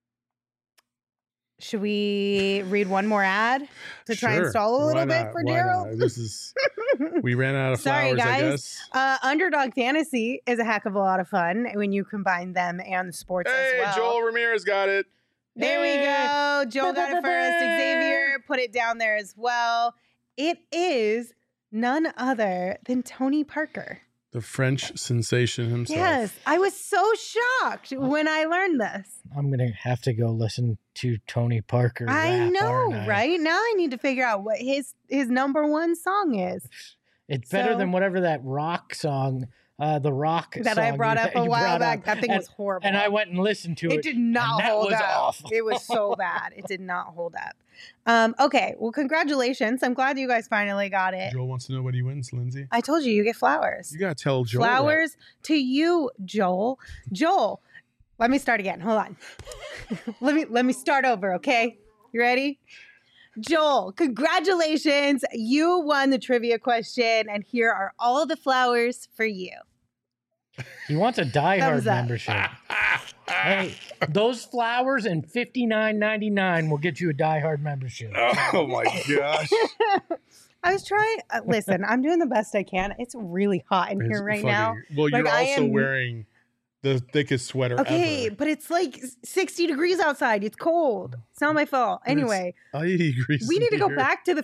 should we read one more ad to try and Sure. stall a Why little bit not? for Why Daryl? not? This is we ran out of Sorry, flowers, I guys. guess. Underdog Fantasy is a heck of a lot of fun when you combine them and the sports Hey, as well. Joel Ramirez got it. There we Hey. go. Joel got it first. Xavier put it down there as well. It is none other than Tony Parker. The French sensation himself. Yes, I was so shocked when I learned this. I'm gonna have to go listen to Tony Parker. I rap, know, aren't I? right? Now I need to figure out what his number one song is. It's better So- than whatever that rock song, the rock That I song brought you- up a you while brought back. up. That thing And- was horrible. And I went and listened to it. It did not and that hold was up. awful. It was so bad. It did not hold up. Okay, well, congratulations. I'm glad you guys finally got it. Joel wants to know what he wins, Lindsay. I told you get flowers. You gotta tell Joel. that. Flowers to you, Joel. Joel, let me start again. Hold on. let me start over, okay? You ready? Joel, congratulations. You won the trivia question, and here are all the flowers for you. He wants a Die Hard Thumbs up. membership. Hey, those flowers and $59.99 will get you a Die Hard membership. Oh my gosh. I was trying. Listen, I'm doing the best I can. It's really hot in It's here right fucking- now. Well, you're Like, I also am- wearing the thickest sweater Okay, ever. but it's like 60 degrees outside. It's cold. It's not my fault. But it's Anyway, 80 degrees. we need to go here. back to the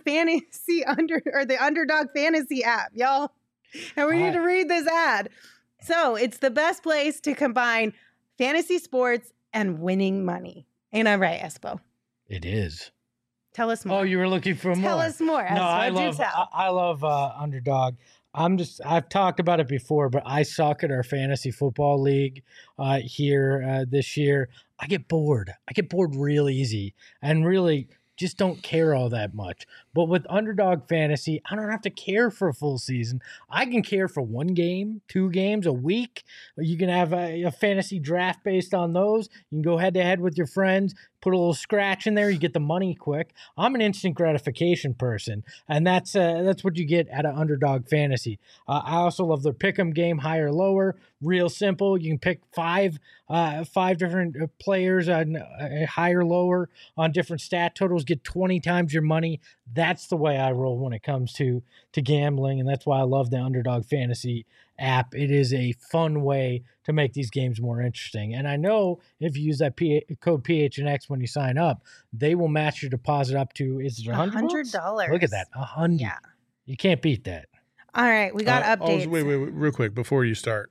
the Underdog Fantasy app, y'all. And we need to read this ad. So it's the best place to combine fantasy sports and winning money. Ain't I right, Espo? It is. Tell us more. Oh, you were looking for more. Tell us more. No, I Espo. Do love tell. I love Underdog. I've talked about it before, but I suck at our fantasy football league here this year. I get bored. I get bored real easy and really just don't care all that much. But with Underdog Fantasy, I don't have to care for a full season. I can care for 1 game, 2 games, a week. You can have a fantasy draft based on those. You can go head to head with your friends, put a little scratch in there. You get the money quick. I'm an instant gratification person, and that's what you get out of Underdog Fantasy. I also love their pick'em game, higher, lower, real simple. You can pick five different players on higher, lower on different stat totals. Get 20 times your money. That's the way I roll when it comes to gambling, and that's why I love the Underdog Fantasy app. It is a fun way to make these games more interesting. And I know if you use that code PHNX when you sign up, they will match your deposit up to, is it $100? Look at that, $100. Yeah. You can't beat that. All right, we got updates. Wait, real quick before you start.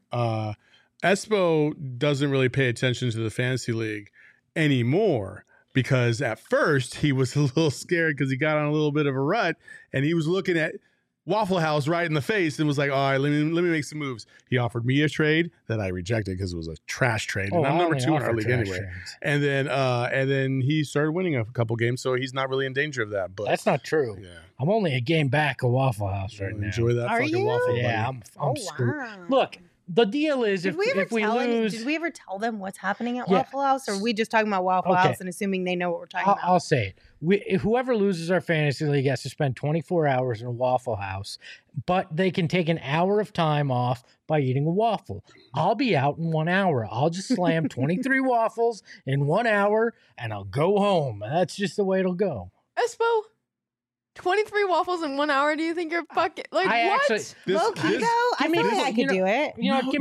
Espo doesn't really pay attention to the fantasy league anymore because at first he was a little scared because he got on a little bit of a rut and he was looking at Waffle House right in the face and was like, all right, let me make some moves. He offered me a trade that I rejected because it was a trash trade. And I'm number 2 in our league anyway. Trades. And then he started winning a couple games, so he's not really in danger of that. But that's not true. Yeah. I'm only a game back of Waffle House right now. Enjoy that fucking waffle. Yeah, I'm screwed. Wow. Look, the deal is if we lose... Did we ever tell them what's happening at Waffle House? Or are we just talking about Waffle House and assuming they know what we're talking about? I'll say it. Whoever loses our fantasy league has to spend 24 hours in a Waffle House, but they can take an hour of time off by eating a waffle. I'll be out in 1 hour. I'll just slam 23 waffles in 1 hour, and I'll go home. That's just the way it'll go. Espo, 23 waffles in 1 hour? Do you think you're fucking what? Low key though, I feel like I could do it. You know, give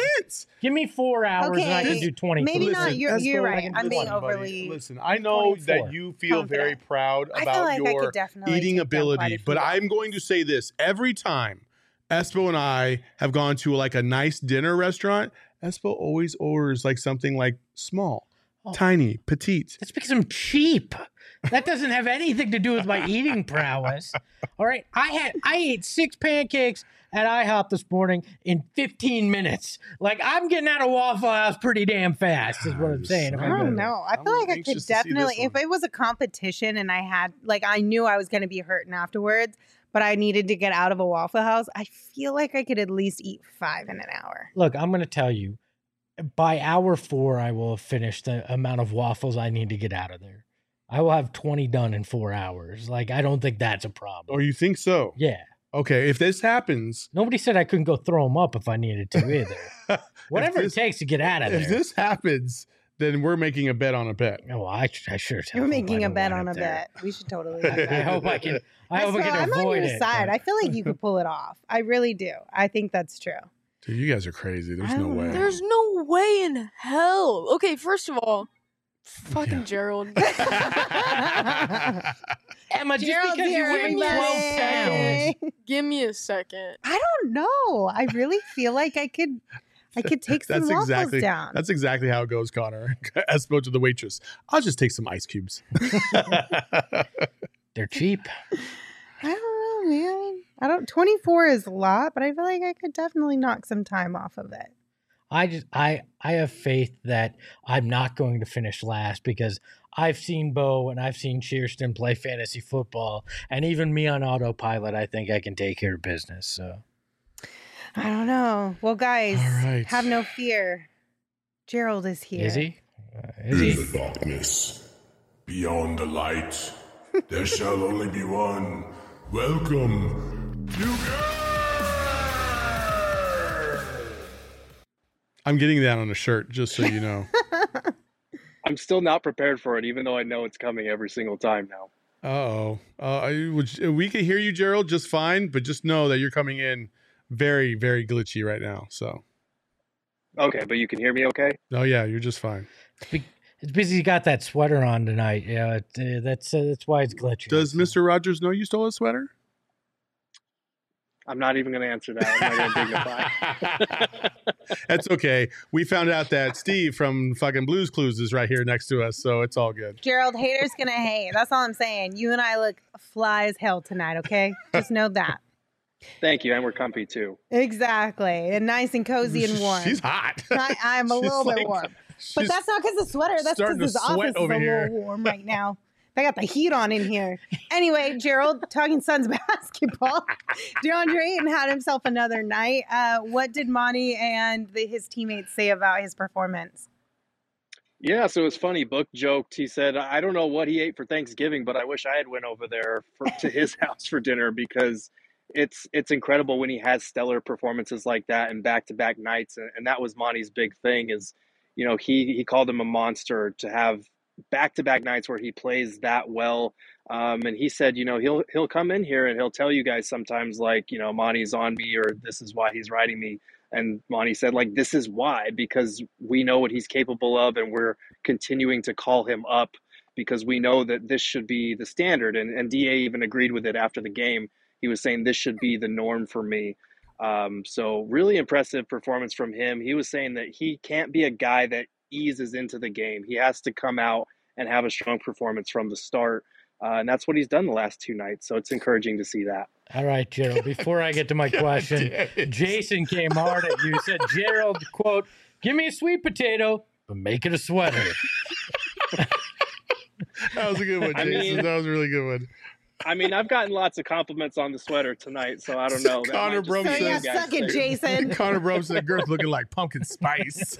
me 4 hours and I can do 20. Maybe not. You're right. I'm being overly. Listen, I know 24. That you feel very proud about your eating ability, but I'm going to say this: every time Espo and I have gone to like a nice dinner restaurant, Espo always orders like something like small, tiny, petite. That's because I'm cheap. That doesn't have anything to do with my eating prowess. All right. I ate 6 pancakes at IHOP this morning in 15 minutes. Like, I'm getting out of Waffle House pretty damn fast, is what I'm saying. I don't know. I feel like I could definitely, if it was a competition and I had, like, I knew I was going to be hurting afterwards, but I needed to get out of a Waffle House, I feel like I could at least eat 5 in an hour. Look, I'm going to tell you, by hour 4, I will have finished the amount of waffles I need to get out of there. I will have 20 done in 4 hours. Like, I don't think that's a problem. Oh, you think so? Yeah. Okay, if this happens... Nobody said I couldn't go throw them up if I needed to either. Whatever it takes to get out of there. If this happens, then we're making a bet on a bet. Oh, I sure tell You're making a bet on a bet. We should totally do that. I hope I can avoid it. I'm on your side. I feel like you could pull it off. I really do. I think that's true. Dude, you guys are crazy. There's no way. There's no way in hell. Okay, first of all, fucking Gerald. Emma, just because you weigh 12 pounds. Give me a second. I don't know. I really feel like I could take some waffles down. That's exactly how it goes, Connor. Espo to the waitress. I'll just take some ice cubes. They're cheap. I don't know, man. 24 is a lot, but I feel like I could definitely knock some time off of it. I have faith that I'm not going to finish last because I've seen Bo and I've seen Shearston play fantasy football, and even me on autopilot, I think I can take care of business. So I don't know. Well, guys, have no fear. Gerald is here. Is he? In the darkness, beyond the light, there shall only be one. Welcome to I'm getting that on a shirt, just so you know. I'm still not prepared for it, even though I know it's coming every single time now. We can hear you, Gerald, just fine, but just know that you're coming in very, very glitchy right now. So. Okay, but you can hear me okay? Oh, yeah, you're just fine. It's because you got that sweater on tonight. Yeah, that's why it's glitchy. Does Mr. Rogers know you stole a sweater? I'm not even going to answer that. I'm not going to dignify. That's okay. We found out that Steve from fucking Blues Clues is right here next to us, so it's all good. Gerald, haters gonna hate. That's all I'm saying. You and I look fly as hell tonight, okay? Just know that. Thank you, and we're comfy too. Exactly, and nice and cozy and warm. She's hot. I'm a little bit warm, but that's not because of the sweater. That's because this office is a little warm right now. They got the heat on in here. Anyway, Gerald, talking Suns basketball, DeAndre Ayton had himself another night. What did Monty and his teammates say about his performance? Yeah, so it was funny. Book joked. He said, "I don't know what he ate for Thanksgiving, but I wish I had went over there to his house for dinner because it's incredible when he has stellar performances like that and back-to-back nights." And that was Monty's big thing is, he called him a monster to have back-to-back nights where he plays that well. And he said, he'll come in here and he'll tell you guys sometimes like, Monty's on me or this is why he's riding me. And Monty said, like, this is why, because we know what he's capable of and we're continuing to call him up because we know that this should be the standard. And DA even agreed with it after the game. He was saying this should be the norm for me. So really impressive performance from him. He was saying that he can't be a guy that eases into the game. He has to come out and have a strong performance from the start. And that's what he's done the last 2 nights. So it's encouraging to see that. All right, Gerald, before I get to my question, Jason came hard at you. Said, Gerald, quote, "Give me a sweet potato, but make it a sweater." That was a good one, Jason. That was a really good one. I mean, I've gotten lots of compliments on the sweater tonight, so I don't know. Connor Brum So yeah, suck it, Jason. Connor Brum said Girth looking like pumpkin spice.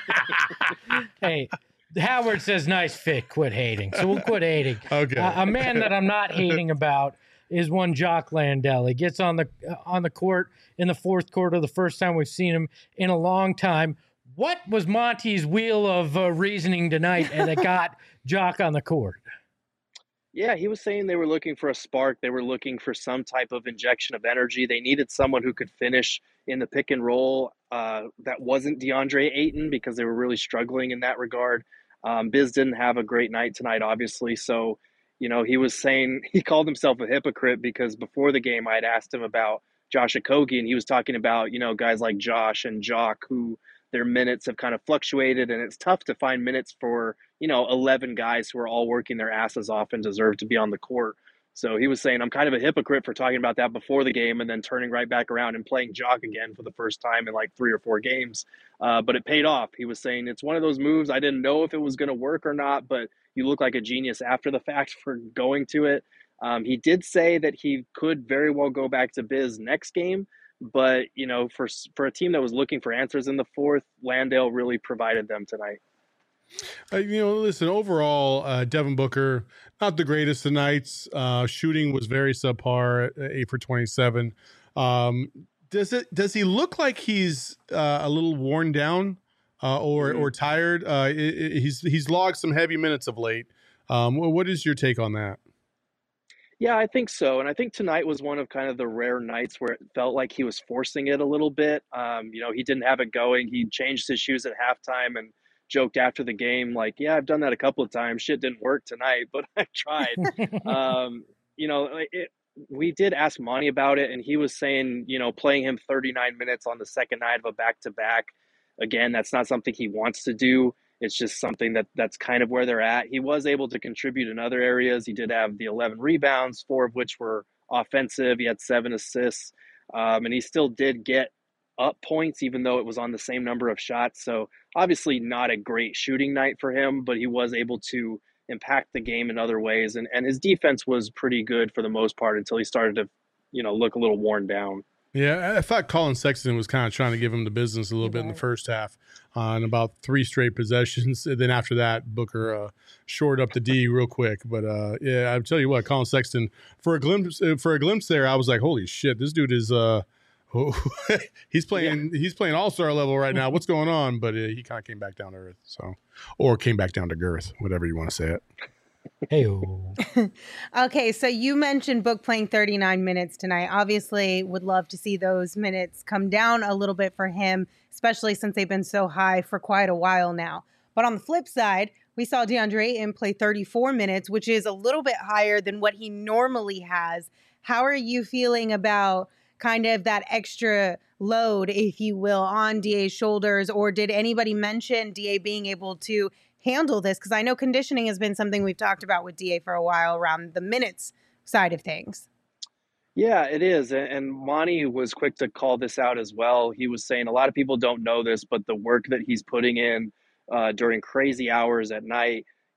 Hey, Howard says, nice fit, quit hating. So we'll quit hating. Okay. A man that I'm not hating about is one Jock Landale. He gets on the court in the fourth quarter, the first time we've seen him in a long time. What was Monty's wheel of reasoning tonight that got Jock on the court? Yeah, he was saying they were looking for a spark. They were looking for some type of injection of energy. They needed someone who could finish in the pick and roll that wasn't DeAndre Ayton because they were really struggling in that regard. Biz didn't have a great night tonight, obviously. So, he was saying he called himself a hypocrite because before the game I had asked him about Josh Okogie, and he was talking about, guys like Josh and Jock who their minutes have kind of fluctuated, and it's tough to find minutes for, 11 guys who are all working their asses off and deserve to be on the court. So he was saying, I'm kind of a hypocrite for talking about that before the game and then turning right back around and playing Jock again for the first time in like 3 or 4 games. But it paid off. He was saying it's one of those moves. I didn't know if it was going to work or not, but you look like a genius after the fact for going to it. He did say that he could very well go back to Biz next game. But, for a team that was looking for answers in the fourth, Landale really provided them tonight. Listen, overall, Devin Booker, not the greatest of nights. Shooting was very subpar, 8 for 27. Does he look like he's a little worn down or tired? He's logged some heavy minutes of late. What is your take on that? Yeah, I think so. And I think tonight was one of kind of the rare nights where it felt like he was forcing it a little bit. He didn't have it going. He changed his shoes at halftime and joked after the game, like, yeah, I've done that a couple of times. Shit didn't work tonight, but I tried. We did ask Monty about it, and he was saying, playing him 39 minutes on the second night of a back-to-back, again, that's not something he wants to do. It's just something that's kind of where they're at. He was able to contribute in other areas. He did have the 11 rebounds, 4 of which were offensive. He had 7 assists, and he still did get up points, even though it was on the same number of shots. So obviously not a great shooting night for him, but he was able to impact the game in other ways. And his defense was pretty good for the most part until he started to, look a little worn down. Yeah, I thought Colin Sexton was kind of trying to give him the business a little bit in the first half on about 3 straight possessions. And then after that, Booker shored up the D real quick. But yeah, I'll tell you what, Colin Sexton, for a glimpse there, I was like, holy shit, this dude is he's playing all-star level right now. What's going on? But he kind of came back down to earth, or came back down to girth, whatever you want to say it. Hey-o. Okay, so you mentioned Book playing 39 minutes tonight. Obviously, would love to see those minutes come down a little bit for him, especially since they've been so high for quite a while now. But on the flip side, we saw DeAndre Ayton play 34 minutes, which is a little bit higher than what he normally has. How are you feeling about kind of that extra load, if you will, on DA's shoulders? Or did anybody mention DA being able to handle this? Because I know conditioning has been something we've talked about with DA for a while around the minutes side of things. Yeah, it is. And Monty was quick to call this out as well. He was saying a lot of people don't know this, but the work that he's putting in during crazy hours at night,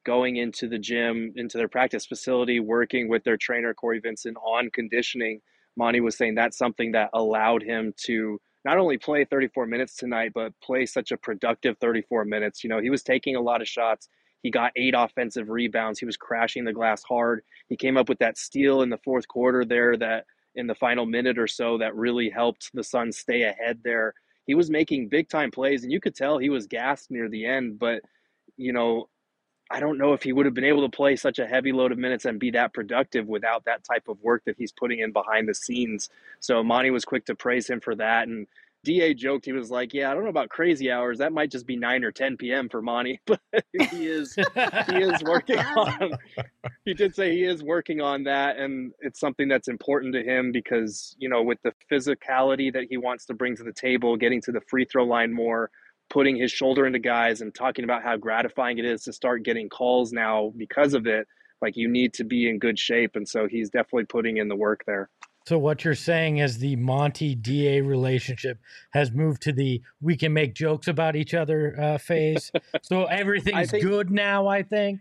going into the gym, into their practice facility, working with their trainer, Corey Vincent, on conditioning. Monty was saying that's something that allowed him to not only play 34 minutes tonight, but play such a productive 34 minutes. You know, he was taking a lot of shots. He got 8 offensive rebounds. He was crashing the glass hard. He came up with that steal in the fourth quarter there, that in the final minute or so, that really helped the Suns stay ahead there. He was making big time plays, and you could tell he was gassed near the end, but you know, I don't know if he would have been able to play such a heavy load of minutes and be that productive without that type of work that he's putting in behind the scenes. So Monty was quick to praise him for that. And DA joked, he was like, yeah, I don't know about crazy hours. That might just be 9 or 10 p.m. for Monty, but he is working on, he did say he is working on that. And it's something that's important to him because, you know, with the physicality that he wants to bring to the table, getting to the free throw line more, putting his shoulder into guys and talking about how gratifying it is to start getting calls now because of it. Like, you need to be in good shape. And so he's definitely putting in the work there. So what you're saying is the Monty DA relationship has moved to the we can make jokes about each other phase. So everything's good now, I think.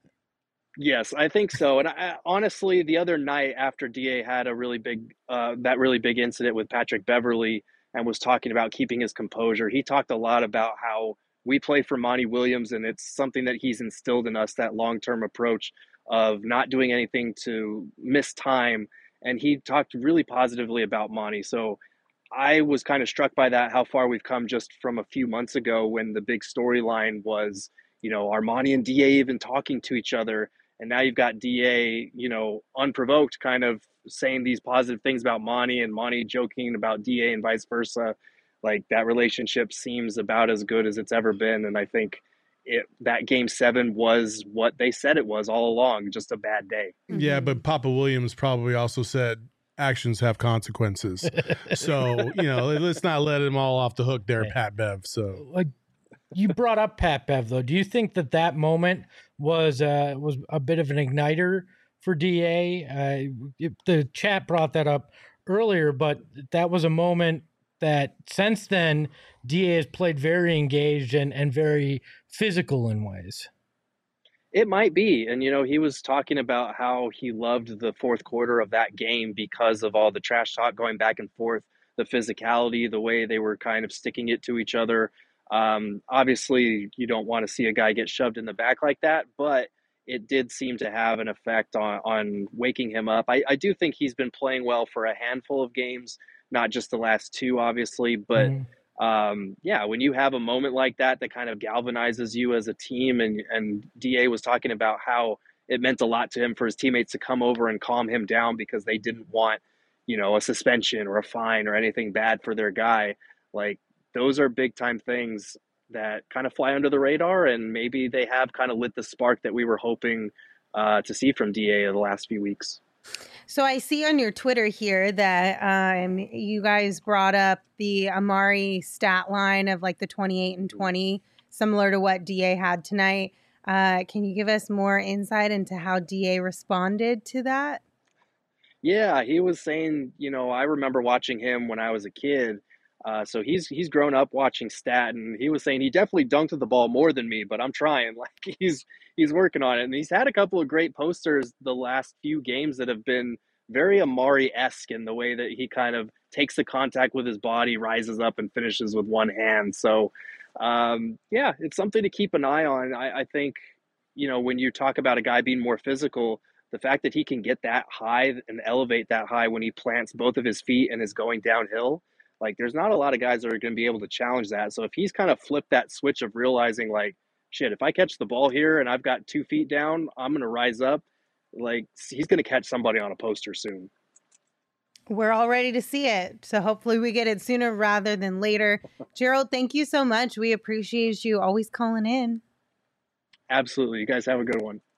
Yes, I think so. And I, honestly, the other night after DA had a really big, that really big incident with Patrick Beverly and was talking about keeping his composure, he talked a lot about how we play for Monty Williams, and it's something that he's instilled in us, that long-term approach of not doing anything to miss time. And he talked really positively about Monty. So I was kind of struck by that, how far we've come just from a few months ago when the big storyline was, you know, are Monty and DA even talking to each other? And now you've got DA, you know, unprovoked, kind of saying these positive things about Monty, and Monty joking about DA and vice versa. Like, that relationship seems about as good as it's ever been. And I think that game 7 was what they said it was all along, just a bad day. Yeah, but Papa Williams probably also said actions have consequences. So, you know, let's not let him all off the hook there, Pat Bev. So, like, you brought up Pat Bev, though. Do you think that moment was a bit of an igniter for DA? The chat brought that up earlier, but that was a moment that since then DA has played very engaged and very physical in ways. It might be. And, you know, he was talking about how he loved the fourth quarter of that game because of all the trash talk going back and forth, the physicality, the way they were kind of sticking it to each other. Obviously, you don't want to see a guy get shoved in the back like that, but it did seem to have an effect on waking him up. I do think he's been playing well for a handful of games, not just the last 2, obviously, but yeah, when you have a moment like that kind of galvanizes you as a team, and DA was talking about how it meant a lot to him for his teammates to come over and calm him down because they didn't want, you know, a suspension or a fine or anything bad for their guy. Like, those are big time things that kind of fly under the radar, and maybe they have kind of lit the spark that we were hoping to see from DA in the last few weeks. So I see on your Twitter here that you guys brought up the Amari stat line of like the 28 and 20, similar to what DA had tonight. Can you give us more insight into how DA responded to that? Yeah, he was saying, you know, I remember watching him when I was a kid. So he's grown up watching stat, and he was saying he definitely dunked the ball more than me, but I'm trying. Like, he's working on it, and he's had a couple of great posters the last few games that have been very Amari-esque in the way that he kind of takes the contact with his body, rises up, and finishes with one hand. So, yeah, it's something to keep an eye on. I think, you know, when you talk about a guy being more physical, the fact that he can get that high and elevate that high when he plants both of his feet and is going downhill, like, there's not a lot of guys that are going to be able to challenge that. So if he's kind of flipped that switch of realizing, like, shit, if I catch the ball here and I've got 2 feet down, I'm going to rise up. Like, he's going to catch somebody on a poster soon. We're all ready to see it. So hopefully we get it sooner rather than later. Gerald, thank you so much. We appreciate you always calling in. Absolutely. You guys have a good one.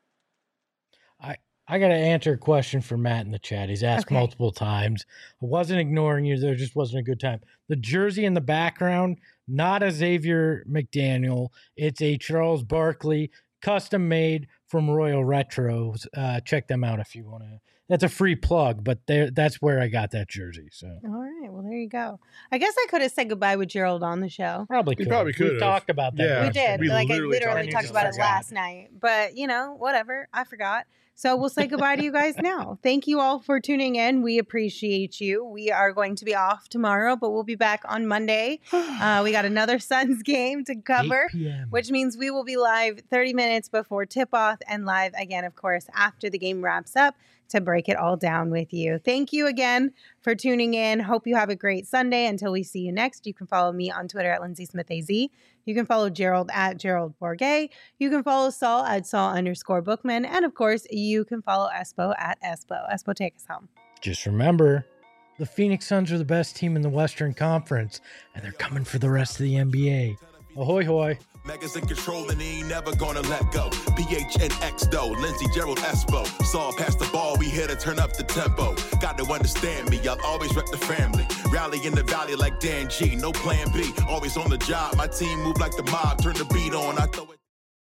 I got to answer a question for Matt in the chat. He's asked multiple times. I wasn't ignoring you. There just wasn't a good time. The jersey in the background, not a Xavier McDaniel. It's a Charles Barkley, custom made from Royal Retros. Check them out if you want to that's a free plug, but that's where I got that jersey. So All right. Well, there you go. I guess I could have said goodbye with Gerald on the show. probably You could. probably We could've. talked about that. Yeah. We last did. time. We Like I literally literally talked talked about about it. it last night. But, whatever. I forgot. So we'll say goodbye to you guys now. Thank you all for tuning in. We appreciate you. We are going to be off tomorrow, but we'll be back on Monday. We got another Suns game to 8 cover, p.m. which means we will be live 30 minutes before tip-off and live again, of course, after the game wraps up to break it all down with you. Thank you again for tuning in. Hope you have a great Sunday. Until we see you next, you can follow me on Twitter at LindsaySmithAZ. You can follow Gerald at Gerald Bourget. You can follow Saul at Saul_Bookman. And of course, you can follow Espo at Espo. Espo, take us home. Just remember, the Phoenix Suns are the best team in the Western Conference, and they're coming for the rest of the NBA. Ahoy, hoy. Megas in control and he ain't never gonna let go. PHNX though, Lindsey, Gerald, Espo. Saw past the ball, we here to turn up the tempo. Got to understand me, I'll always rep the family. Rally in the valley like Dan G, no plan B. Always on the job, my team move like the mob. Turn the beat on, I throw it.